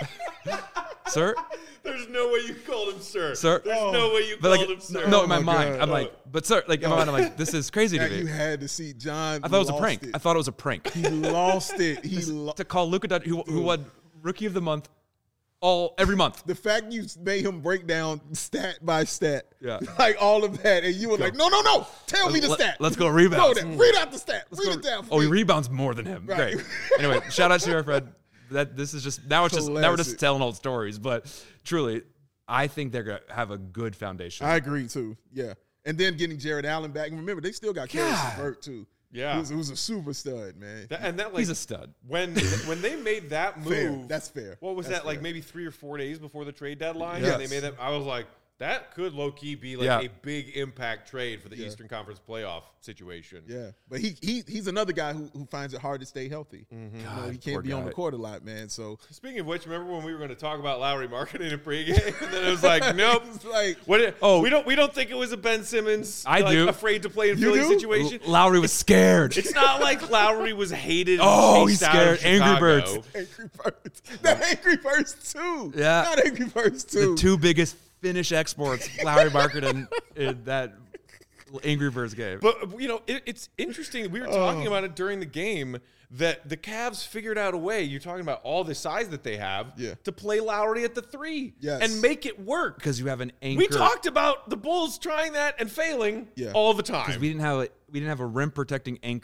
sir, There's no way you called him sir. Sir. There's Oh. no way you but called like, him sir. no, Oh in my, my mind, God. I'm like, but sir, like in my mind, I'm like, this is crazy to That you me. had to see John. I thought it was a lost prank. It. I thought it was a prank He lost it. He lo- to call Luka Doncic, who, who won Rookie of the Month, all every month. the fact you made him break down stat by stat, Yeah. like all of that, and you were like, no, no, no, tell me the Let- stat. let's go Go rebounds. there. Read out the stat. Read Go- it down. For oh, he me. rebounds more than him. Right. Great. Anyway, shout out to our Fred. That this is just now it's just now we're just Classic. telling old stories, but truly, I think they're gonna have a good foundation. I agree too. Yeah, and then getting Jared Allen back, and remember they still got Karis God. LeVert too. Yeah. who's, who's a super stud, man. That- and that like He's a stud. when when they made that move. Fair. That's fair. What was That's that like? fair. Maybe three or four days before the trade deadline. Yes. And they made that. I was like, that could low key be like Yeah. a big impact trade for the Yeah. Eastern Conference playoff situation. Yeah, but he he he's another guy who, who finds it hard to stay healthy. You know, God, he poor can't be on guy. the court a lot, man. So Speaking of which, remember when we were going to talk about Lowry marketing in pregame, and then it was like, nope. it's like What? Oh. we don't. We don't think it was a Ben Simmons. I like, do. Afraid to play in You Philly do? situation. Lowry was scared. It's not like Lowry was hated. And Oh, chased he's out of scared. Angry Chicago. Birds. Angry Birds, the Angry Birds too. Yeah. not Angry Birds too. the two biggest Finnish exports, Lowry Market and in that Angry Birds game. But you know, it, it's interesting. We were Oh. talking about it during the game that the Cavs figured out a way. You're talking about all the size that they have Yeah. to play Lowry at the three Yes. and make it work. Because you have an anchor. We talked about the Bulls trying that and failing Yeah. all the time. We didn't have a we didn't have a rim protecting anchor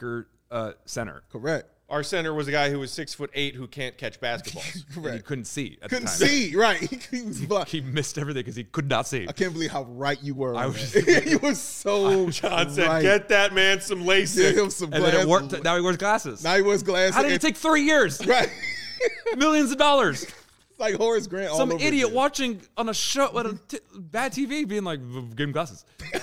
uh, center. Correct. Our center was a guy who was six foot eight who can't catch basketballs. And he Correct. couldn't see. At Couldn't the time. see. Right. He, was blind. He missed everything because he could not see. I can't believe how right you were. I on was- that. You were so John said, right. "Get that man some Give LASIK." him some And then it glasses. worked. Now he wears glasses. Now he wears glasses. How did it and- take three years? Right. Millions of dollars. It's like Horace Grant. all Some over idiot again. watching on a show with a t- bad T V being like, give him glasses.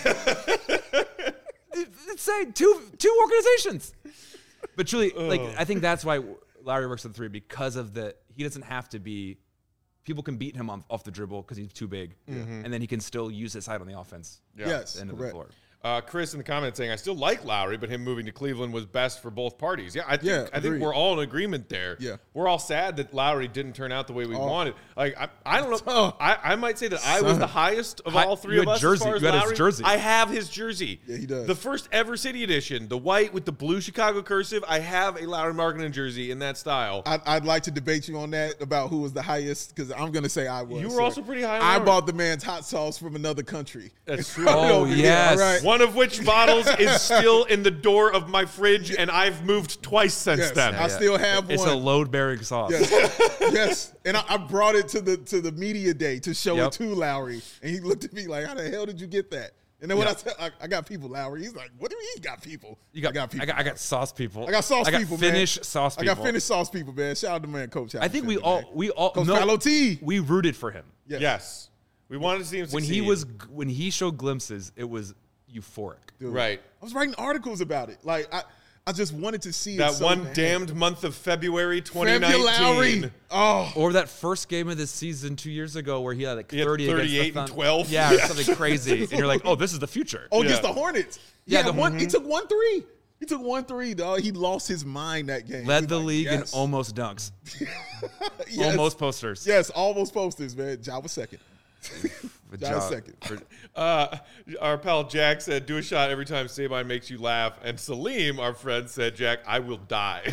It- it's saying two two organizations. But truly, like I think that's why Lowry works at the three because of the he doesn't have to be. People can beat him on, off the dribble because he's too big, and then he can still use his height on the offense. Yeah. Yes. At the end of the Correct. floor. Uh, Chris in the comments saying, "I still like Lowry, but him moving to Cleveland was best for both parties." Yeah, I think Yeah, I think agreed. we're all in agreement there. Yeah. we're all sad that Lowry didn't turn out the way we wanted. Like I, I don't know. Oh. I, I might say that I was Son. the highest of Hi- all three you of had us jersey. as far as You had his Lowry. jersey. I have his jersey. Yeah, he does. The first ever City edition, the white with the blue Chicago cursive. I have a Lowry Markkinen jersey in that style. I'd, I'd like to debate you on that about who was the highest because I'm going to say I was. You were sir. also pretty high on I Lowry. bought the man's hot sauce from another country. That's true. Oh, Over here, yes. all right? One of which bottles is still in the door of my fridge, and I've moved twice since Yes, then. I still have It's one. a load bearing sauce. Yes, yes. And I, I brought it to the to the media day to show Yep. it to Lowry, and he looked at me like, "How the hell did you get that?" And then when Yep. I said, I, "I got people," Lowry, he's like, "What do you mean you got people?" You got, I got people. I got, I got sauce people. I got sauce I got people, Finnish man. sauce I people. got Finnish sauce people, man. Shout out to man, Coach. I think we Alexander, all, man. we all, Coach no, Paolo T. we rooted for him. Yes. Yes. We wanted to see him When succeed. he was, when he showed glimpses, it was euphoric. Dude. Right. I was writing articles about it. Like I, I just wanted to see it That so one bad. damned month of February twenty February nineteen. Lowry. Oh, Or that first game of the season two years ago where he had like He had thirty thirty-eight against the and Thun- twelve. Yeah, or something crazy. And you're like, oh, this is the future. oh, against Yeah. the Hornets. Yeah, Yeah, the- one. He took one three. He took one three, dog. He lost his mind that game. He Led was the like, league yes. in almost dunks, Yes. almost posters. Yes, almost posters, man. Ja was second. With Ja Ja- was second. Uh, our pal Jack said, "Do a shot every time Sabine makes you laugh." And Salim, our friend, said, "Jack, I will die."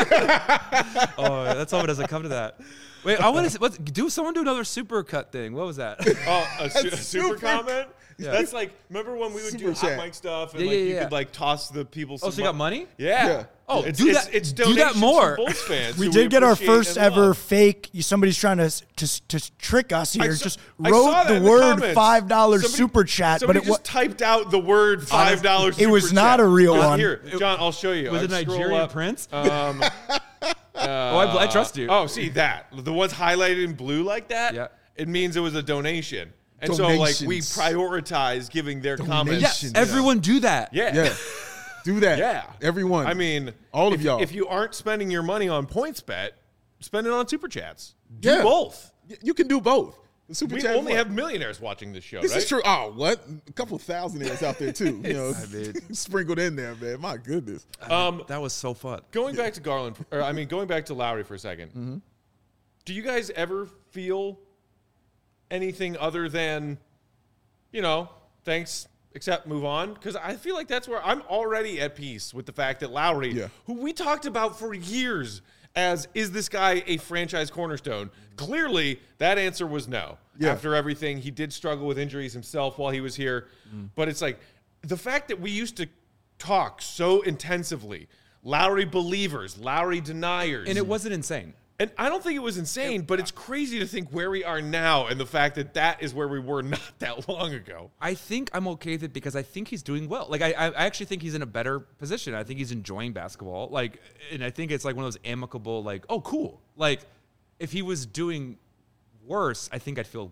Oh, that's all it doesn't come to that. Wait, I want to what, do someone do another super cut thing. What was that? Oh, a, su- a That's super, super. comment? Yeah. That's like, remember when we would Super do hot chat. mic stuff and Yeah, like yeah, you yeah. could like toss the people some Oh, so you got money? Yeah. Yeah. Oh, it's, do it's, that- it's do that donations more. from Bulls fans We who did get our appreciate first and ever love. fake. Somebody's trying to to, to trick us here. saw- just I saw wrote that the in the word comments. five dollars Somebody- super chat, but Somebody it just was typed out the word five dollars. It was not a real John, one. Here, John, I'll show you. Was it I'd scroll Nigerian up. prince? Um, oh, I, I trust you. oh, see that the ones highlighted in blue like that. Yeah. It means it was a donation, and so like we Donations. prioritize giving their comments. yes, Donations. everyone do that. Yeah. Yeah. Do that. Yeah. Everyone. I mean, all if, of y'all. If you aren't spending your money on PointsBet, spend it on Super Chats. Do Yeah. both. Y- you can do both. The super We chat only one. have millionaires watching this show, This right? is true. Oh, what? A couple thousandaires out there too. You know, I mean- sprinkled in there, man. My goodness. Um, That was so fun. going back to Garland, or I mean, going back to Lowry for a 2nd Mm-hmm. Do you guys ever feel anything other than, you know, thanks, accept, move on? Because I feel like that's where I'm already at peace with the fact that Lowry, Yeah. who we talked about for years as, is this guy a franchise cornerstone? Clearly, that answer was no. Yeah. After everything, he did struggle with injuries himself while he was here. But it's like the fact that we used to talk so intensively, Lowry believers, Lowry deniers. And it wasn't insane. And I don't think it was insane, but it's crazy to think where we are now and the fact that that is where we were not that long ago. I think I'm okay with it because I think he's doing well. Like I, I actually think he's in a better position. I think he's enjoying basketball. Like, and I think it's like one of those amicable, like, oh, cool. Like, if he was doing worse, I think I'd feel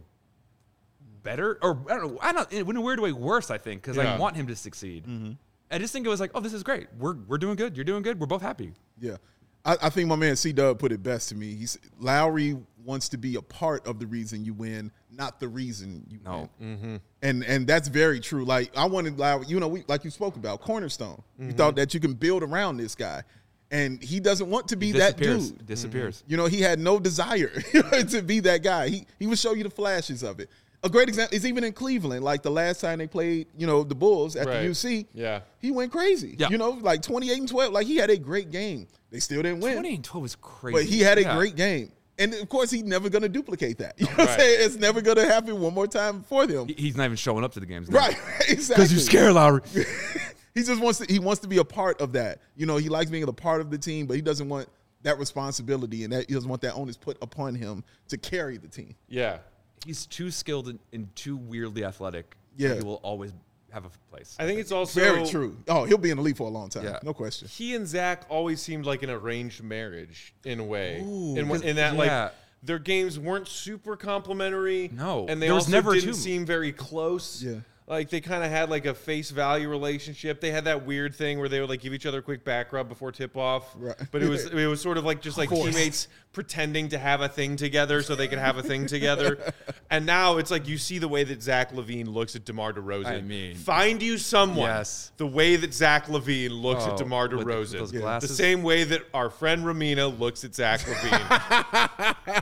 better. Or I don't know. I don't. In a weird way, worse. I think because Yeah. I want him to succeed. I just think it was like, oh, this is great. We're we're doing good. You're doing good. We're both happy. Yeah. I, I think my man C Dub put it best to me. He's Lowry wants to be a part of the reason you win, not the reason you No. win. And and that's very true. Like I wanted Lowry, you know, we like you spoke about cornerstone. You thought that you can build around this guy, and he doesn't want to be that Disappears. dude. Disappears. You know, he had no desire to be that guy. He he would show you the flashes of it. A great example is even in Cleveland, like the last time they played, you know, the Bulls at Right. the U C. Yeah. He went crazy. Yeah. You know, like twenty-eight and twelve. Like he had a great game. They still didn't win. twenty and twelve was crazy. But he had a Yeah. great game. And of course, he's never going to duplicate that. You know what I'm Right. saying? It's never going to happen one more time for them. He- He's not even showing up to the games. now. Right. Exactly. Because you're scared, Lowry. he just wants to he wants to be a part of that. You know, he likes being a part of the team, but he doesn't want that responsibility and that he doesn't want that onus put upon him to carry the team. Yeah. He's too skilled and, and too weirdly athletic. Yeah. that he will always have a place. I think it's also Very true. Oh, he'll be in the league for a long time. Yeah. No question. He and Zach always seemed like an arranged marriage in a way. Ooh, in, 'cause- in that, yeah. like, their games weren't super complementary. No, and they there was also never a didn't two. seem very close. Yeah. Like, they kind of had, like, a face value relationship. They had that weird thing where they would, like, give each other a quick back rub before tip-off. Right. But it was it was sort of like just, like, Forced. teammates pretending to have a thing together so they could have a thing together. And now it's like you see the way that Zach LaVine looks at DeMar DeRozan. I mean- Find you someone. Yes. The way that Zach LaVine looks at Oh, DeMar with DeRozan. those The glasses. same way that our friend Ramina looks at Zach LaVine.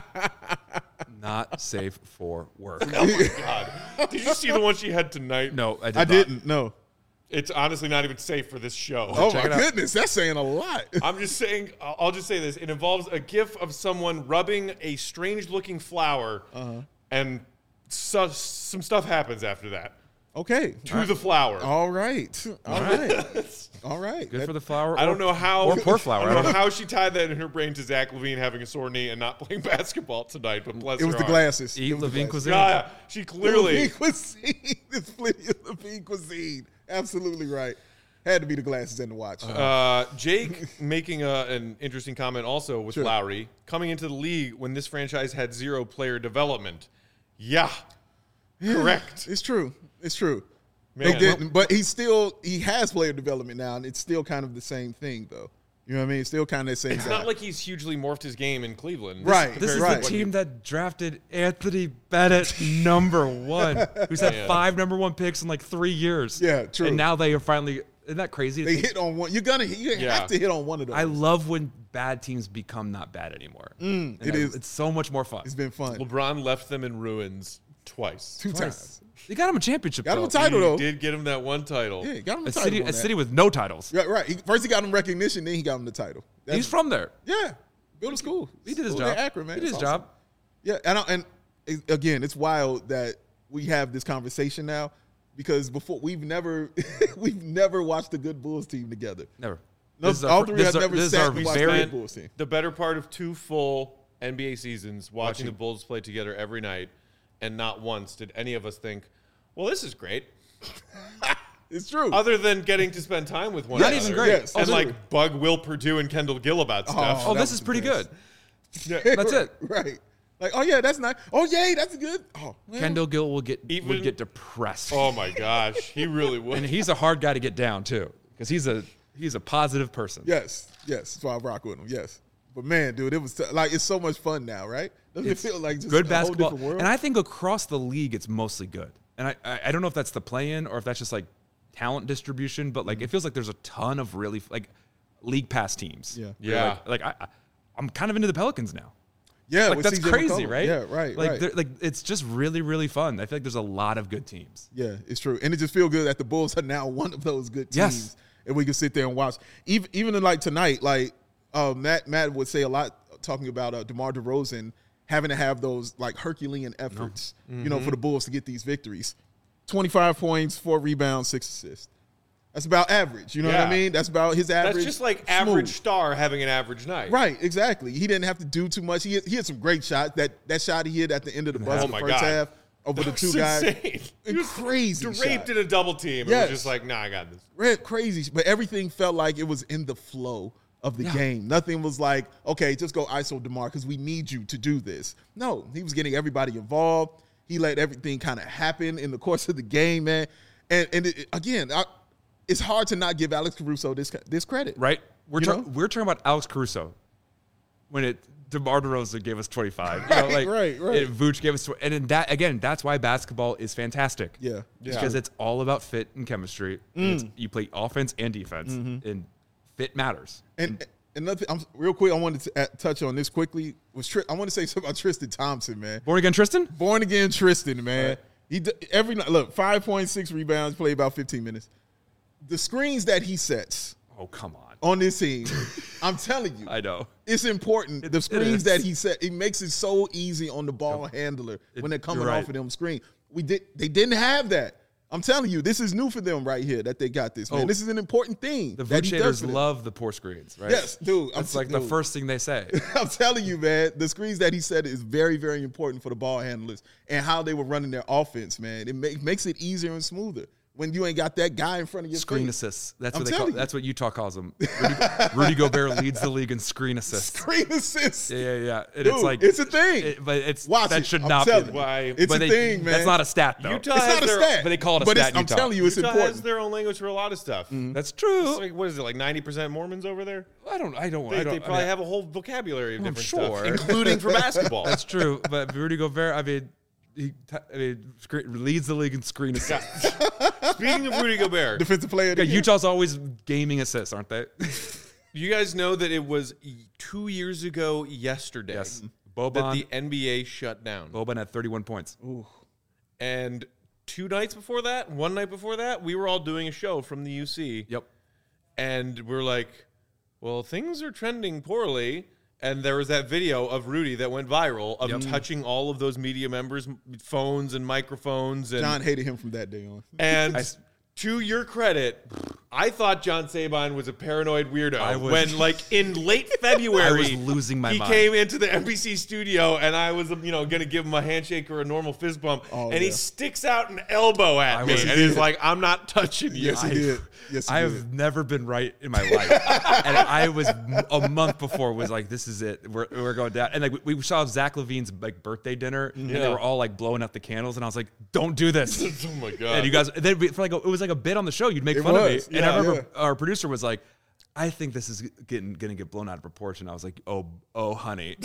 Not safe for work. Oh my God. Did you see the one she had tonight? No, I, did I not. didn't. No. It's honestly not even safe for this show. Oh Check my it out. goodness, that's saying a lot. I'm just saying, I'll I'll just say this. It involves a gif of someone rubbing a strange looking flower, Uh-huh. and so, some stuff happens after that Okay. to the flower. All right. All right. All right. Good That- for the flower. I or- don't know how. or poor flower. I don't know how she tied that in her brain to Zach LaVine having a sore knee and not playing basketball tonight, but bless It was her the heart. glasses. Eat It was the Levine glasses. cuisine. Yeah, she clearly. Levine cuisine. It's plenty of Levine cuisine. Absolutely right. Had to be the glasses and the watch. Uh, Jake making a, an interesting comment also with Sure. Lowry coming into the league when this franchise had zero player development. Yeah, correct. It's true. It's true. Man. They didn't, but he still he has player development now, and it's still kind of the same thing, though. You know what I mean? It's still kind of the same. It's guy. not like he's hugely morphed his game in Cleveland. Right. This is Right. the team that drafted Anthony Bennett number one, who's had Man. five number one picks in like three years. Yeah, true. And now they are finally. Isn't that crazy? They hit on one. You're gonna you Yeah. have to hit on one of those. I love when bad teams become not bad anymore. And it I- is. It's so much more fun. It's been fun. LeBron left them in ruins twice. Two times. They got him a championship. Got him though. a title He though. did get him that one title. Yeah, got him A a title. city, on a that. city with no titles. Right, right. He, first he got him recognition, then he got him the title. That's- He's from there. yeah. Build a school. He did his School job. in Akron, man. He did It's his awesome. job. Yeah, and I, and it- again, it's wild that we have this conversation now because before we've never we've never watched a good Bulls team together. Never. No, This is our all fir- three this have is our- never this is sat our and watched very- a Bulls team. The better part of two full N B A seasons watching, Watching. the Bulls play together every night, and not once did any of us think, well, this is great. It's true. Other than getting to spend time with one Not another. even great. Yes, And true. like bug Will Purdue and Kendall Gill about stuff. Oh, that this was is pretty the best. good. That's it. Right. Like, oh yeah, that's nice. Oh yay, that's good. Oh, well, Kendall Gill will get Even- would get depressed. Oh my gosh, he really would. And he's a hard guy to get down too, because he's a he's a positive person. yes, yes. That's why I rock with him. Yes. But man, dude, it was t- like it's so much fun now, right? Doesn't It's it feel like just good a basketball, whole different world? and I think across the league it's mostly good. And I, I I don't know if that's the play-in or if that's just like talent distribution, but like it feels like there's a ton of really like league pass teams. Yeah. Yeah. Like, like I, I I'm kind of into the Pelicans now. yeah, Like with that's C J crazy, McCollum. right? Yeah, right, Like right. they're- like it's just really really fun. I feel like there's a lot of good teams. Yeah, it's true, and it just feels good that the Bulls are now one of those good teams, Yes. and we can sit there and watch. Even even in like tonight, like uh, Matt Matt would say a lot talking about uh, DeMar DeRozan having to have those like Herculean efforts, you know, for the Bulls to get these victories. twenty-five points, four rebounds, six assists. That's about average. You know what Yeah. I mean? That's about his average. That's just like smooth. average star having an average night. Right, exactly. He didn't have to do too much. He had, he had some great shots. That that shot he hit at the end of the buzzer, Oh the my first God. half over the That two was guys. insane. He was Crazy draped shot. in a double team. It Yes. was just like, nah, I got this. Red crazy, but everything felt like it was in the flow of the game. Nothing was like, okay, just go I S O DeMar because we need you to do this. No, he was getting everybody involved. He let everything kind of happen in the course of the game, man. And and it, again, I, it's hard to not give Alex Caruso this this credit, Right? We're You ta- know? we're talking about Alex Caruso when it DeMar DeRozan gave us twenty-five. You know, Right, like, right, right. And Vooch gave us, tw- and in that again, that's why basketball is fantastic. Yeah. Yeah. because it's all about fit and chemistry. And Mm. it's, you play offense and defense, Mm-hmm. and fit matters. And another, I'm real quick. I wanted to uh, touch on this quickly. Was Tri- I want to say something about Tristan Thompson, man. Born again, Tristan. Born again Tristan, man. Right. He d- every night. Look, five point six rebounds, played about fifteen minutes. The screens that he sets Oh come on! on this team, I'm telling you, I know. it's important. The it screens is. that he set, it makes it so easy on the ball handler when they're coming you're off right. of them screen. We did. They didn't have that I'm telling you, this is new for them right here that they got this, man. Oh, this is an important thing. The that Vood he does shaders for them. love the poor screens, right? Yes, dude. I'm That's like dude. the first thing they say. I'm telling you, man, the screens that he said is very, very important for the ball handlers and how they were running their offense, man. It make, makes it easier and smoother when you ain't got that guy in front of your Screen face. assists. That's I'm what they call. telling you. That's what Utah calls them. Rudy, Rudy Gobert leads the league in screen assists. Screen assists. Yeah, yeah, yeah. And Dude, it's like it's a thing. it- but it's Watch that it. should I'm not be. telling the- you. Why? It's but a they- thing, man. That's not a stat though. Utah It's has not a their, stat. but they call it a but stat it's- I'm Utah. telling you, it's Utah important. has their own language for a lot of stuff. That's It's true. like, what is it, like ninety percent Mormons over there? I don't. I don't. They, I don't they probably I mean, have a whole vocabulary of I'm different sure. stuff, including for basketball. That's true. But Rudy Gobert, I mean, he t- I mean, screen, leads the league in screen assists. Speaking of Rudy Gobert, Defensive player of the Yeah, year. Utah's always gaming assists, aren't they? you guys know that it was two years ago yesterday Yes. that Boban. the N B A shut down. Boban had thirty-one points. And two nights before that, one night before that, we were all doing a show from the U C. Yep. And we're like, well, things are trending poorly. And there was that video of Rudy that went viral of touching all of those media members' phones and microphones. And, John hated him from that day on. and I- to your credit, I thought John Sabine was a paranoid weirdo I was- when, like, in late February, I was losing my he mind. came into the N B C studio, and I was, you know, going to give him a handshake or a normal fist bump, Oh, and he yeah. sticks out an elbow at I me, was- and he's like, "I'm not touching you." Yes, he did. Yes, he I did. have never been right in my life, and I was a month before was like, "This is it. We're, we're going down." And like we saw Zach Levine's like birthday dinner, and they Yeah. were all like blowing out the candles, and I was like, "Don't do this." Oh my god! And you guys, then we- for like a, it was like a bit on the show. You'd make It fun was, of me, and I yeah. remember our producer was like, "I think this is getting gonna get blown out of proportion." I was like, "Oh, oh, honey,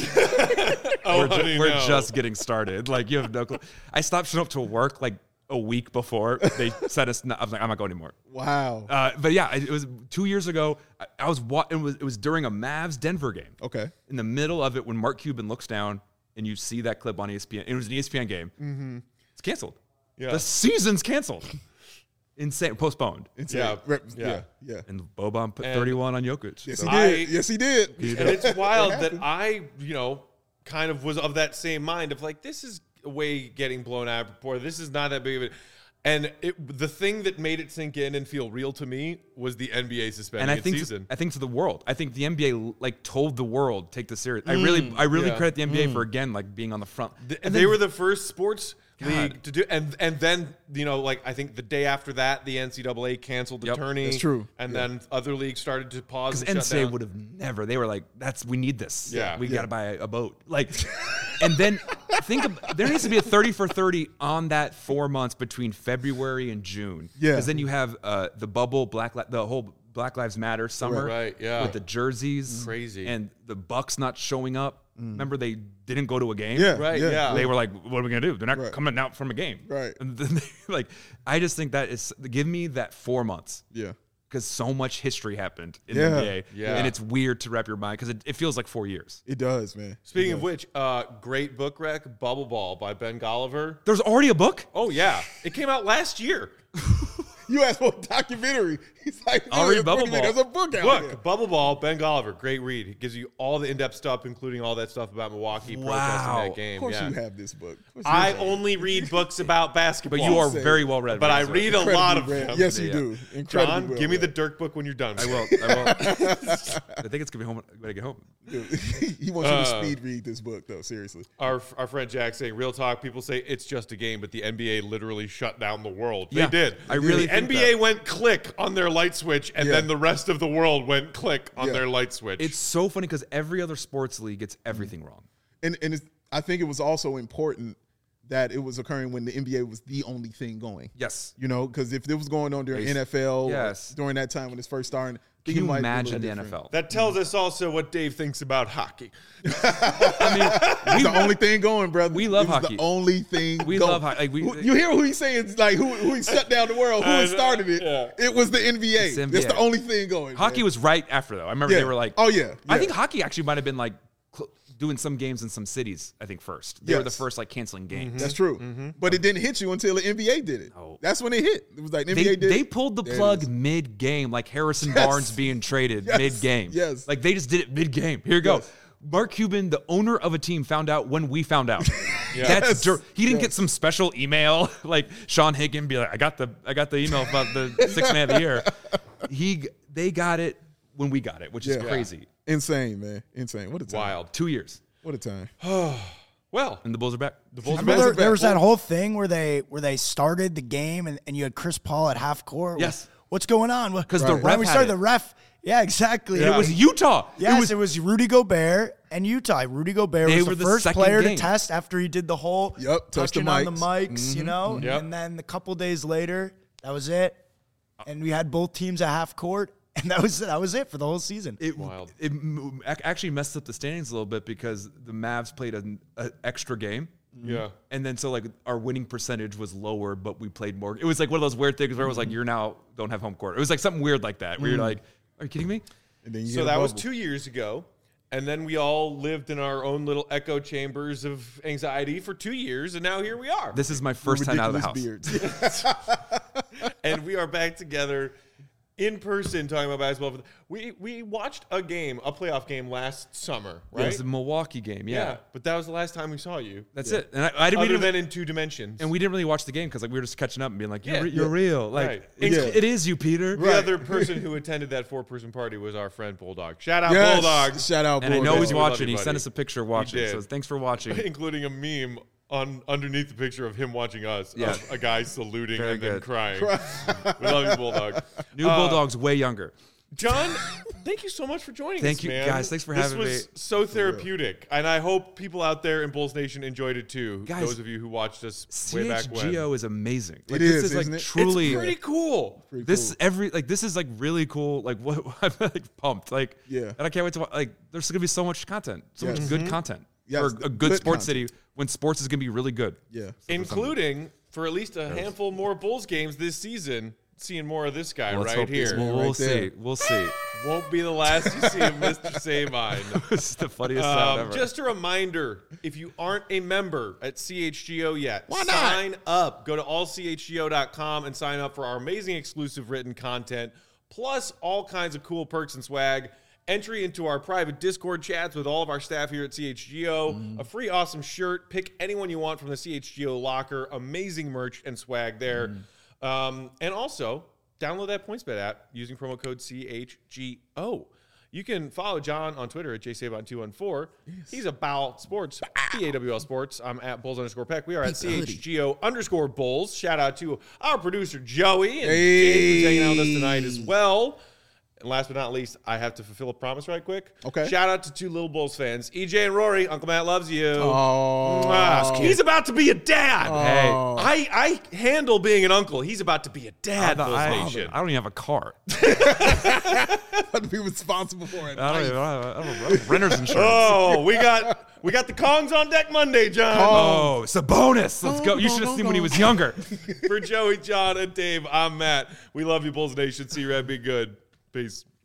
oh, we're, ju- honey, we're no. just getting started." Like you have no clue. I stopped showing up to work like a week before they said us. I was like, "I'm not going anymore." Wow. Uh, but yeah, it was two years ago. I, I was wa- it was it was during a Mavs Denver game. Okay. In the middle of it, when Mark Cuban looks down and you see that clip on E S P N, it was an E S P N game. Mm-hmm. It's canceled. Yeah. The season's canceled. Insane, postponed. It's Yeah. a rep- Yeah. yeah. Yeah. And Boban put And- thirty-one on Jokic. Yes, So- he did. I- yes, he did. And it's wild that happened. I, you know, kind of was of that same mind of like, this is a way getting blown out of proportion. This is not that big of it. And it, the thing that made it sink in and feel real to me was the N B A suspending and I its think season. I think to the world. I think the N B A like told the world take this serious. I really I really yeah. credit the N B A for again like being on the front. Th- And they then- were the first sports God. league to do, and and then you know, like I think the day after that, the N C double A canceled the Yep. tourney. That's true. And Yeah. then other leagues started to pause. Because And N shut C A A down. would have never. They were like, "That's we need this. Yeah. we Yeah. got to buy a, a boat." Like, and then think of there needs to be a thirty for thirty on that four months between February and June. Yeah. because then you have uh, the bubble, Black Li- the whole Black Lives Matter summer, Right, yeah. with the jerseys, Crazy. and the Bucks not showing up. Remember they didn't go to a game. Yeah. Right, yeah. They were like, "What are we gonna do? They're not Right. coming out from a game." Right. And then they, like, I just think that is give me that four months Yeah. because so much history happened in Yeah. the N B A, Yeah. and it's weird to wrap your mind because it, it feels like four years. It does, man. Speaking It of does. which, uh, great book rec, Bubble Ball by Ben Golliver. There's already a book. Oh yeah, it came out last year. you asked for a documentary. He's like, I'll read "Wait a Bubble minute, Ball." There's a book out Book, there. Bubble Ball, Ben Golliver, great read. It gives you all the in-depth stuff, including all that stuff about Milwaukee Wow. protesting that Of game. course yeah. you have this book. Of course you I have. only read books about basketball. But you are Say- very well read. But I Razor. read a lot of Incredibly them. read. Yes, you Yeah. do. Incredibly John, well give me the read. Dirk book when you're done. I will. I will. I think it's gonna be home when I get home. Dude, he wants you to Uh, speed read this book, though. Seriously. Our, our friend Jack saying, real talk, people say it's just a game, but the N B A literally shut down the world. Yeah, they did. I really The think N B A that. went click on their light switch, and Yeah. then the rest of the world went click on Yeah. their light switch. It's so funny because every other sports league gets everything wrong. And and it's, I think it was also important that it was occurring when the N B A was the only thing going. Yes. You know, because if it was going on during Yes. N F L, Yes. during that time when it's first starting, I Can think it you might be a imagine little the N different. F L? that tells us also what Dave thinks about hockey. I mean, It's the only thing going, brother. we love it was hockey. The only thing We going. love hockey. Like, we- Who- you hear who he's saying? Like who who he shut down the world? Who I had know, started it? yeah. It was the N B A. It's the N B A. That's the only thing going. hockey man. was right after though. I remember Yeah. they were like, Oh yeah. I yeah. think hockey actually might have been like cl- doing some games in some cities. I think first they were the Yes. first like canceling games. That's true. But it didn't hit you until the N B A did it. No. That's when it hit. It was like the N B They, A did they it. pulled the There it plug is. mid game, like Harrison Yes. Barnes being traded Yes. mid game. Yes. Like they just did it mid game. Here you go. Yes. Mark Cuban, the owner of a team, found out when we found out. That's dir- he didn't get some special email like Sean Higgin be like, I got the I got the email about the sixth man of the year. He they got it when we got it, which is Yeah. crazy. Insane, man. Insane. What a time. Wild. Two years, What a time. Well, and the Bulls are back. the Bulls I are remember back. there, there was that whole thing where they where they started the game and, and you had Chris Paul at half court. Yes. What's going on? Because the Right. When ref we had started it. the ref. Yeah, exactly. It was Utah. Yes, it was it was Rudy Gobert and Utah. Rudy Gobert They was were the the first second player game. to test after he did the whole Yep, touch the touching on the mics. mics, you know? Yep. And then a couple days later, that was it. And we had both teams at half court, and that was that was it for the whole season. It, Wild. it m- ac- actually messed up the standings a little bit because the Mavs played an a extra game. Yeah. And then so like our winning percentage was lower, but we played more. It was like one of those weird things where it was like, you're now don't have home court. It was like something weird like that where you're like, are you kidding me? And then you So hit a that was bubble. two years ago. And then we all lived in our own little echo chambers of anxiety for two years. And now here we are. This is my first time out of the house. Ridiculous beards. And we are back together in person talking about basketball. We we watched a game, a playoff game last summer, Yeah, it right? was the Milwaukee game. Yeah. But that was the last time we saw you. That's it. And I, I didn't, we Other didn't than in two dimensions. and we didn't really watch the game because like we were just catching up and being like, you're, Yeah. re- you're real. Like Right. it's, Yeah. it is you, Peter. the other person who attended that four-person party was our friend Bulldog. Shout out Yes. Bulldog. Shout out, And I know Bulldog. he's We love watching. you, He sent buddy. us a picture watching. did. So thanks for watching. Including a meme on underneath the picture of him watching us, Yeah. of a guy saluting Very and then good. crying. We love you, Bulldog. New Uh, Bulldog's way younger. John, thank you so much for joining Thank us, you, man. guys. Thanks for this having was me. so therapeutic, and I hope people out there in Bulls Nation enjoyed it too. Guys, those of you who watched us way back when. C H G O is amazing. Like, It this is, is like isn't it? It's truly pretty cool. Pretty this cool. every like this is like really cool. Like what I'm like pumped. Like Yeah. and I can't wait to wa- like. There's gonna be so much content, so Yes. much good content Yes, for a good good sports content. city when sports is gonna be really good. Yeah. Including for at least a handful more Bulls games this season. Seeing more of this guy Let's right hope here. this- We'll, right we'll there. see. We'll see. Won't be the last you see of Mister Sabine. This is the funniest sound Um, ever. just a reminder, if you aren't a member at C H G O yet, Why not? sign up. Go to all c h g o dot com and sign up for our amazing exclusive written content, plus all kinds of cool perks and swag. Entry into our private Discord chats with all of our staff here at C H G O. Mm. A free awesome shirt. Pick anyone you want from the C H G O locker. Amazing merch and swag there. Mm. Um, and also, download that PointsBet app using promo code C H G O. You can follow John on Twitter at J Sabon two one four. He's about sports, B A W L Sports. I'm at Bulls underscore Peck. We are at C H G O underscore Bulls. Shout out to our producer, Joey, and Jake, who's hanging out with us tonight as well. And last but not least, I have to fulfill a promise right quick. Okay. Shout out to two little Bulls fans, E J and Rory. Uncle Matt loves you. Oh. Mwah. He's about to be a dad. Hey. I, I handle being an uncle. He's about to be a dad, I, Bulls I, Nation. I don't even have a car. Have to be responsible for it. I don't even I don't, I don't, I don't renter's insurance. Oh, we got we got the Kongs on deck Monday, John. Oh, it's a bonus. Let's go. You should have seen when he was younger. For Joey, John, and Dave, I'm Matt. We love you, Bulls Nation. See you, Red. Be good. Peace.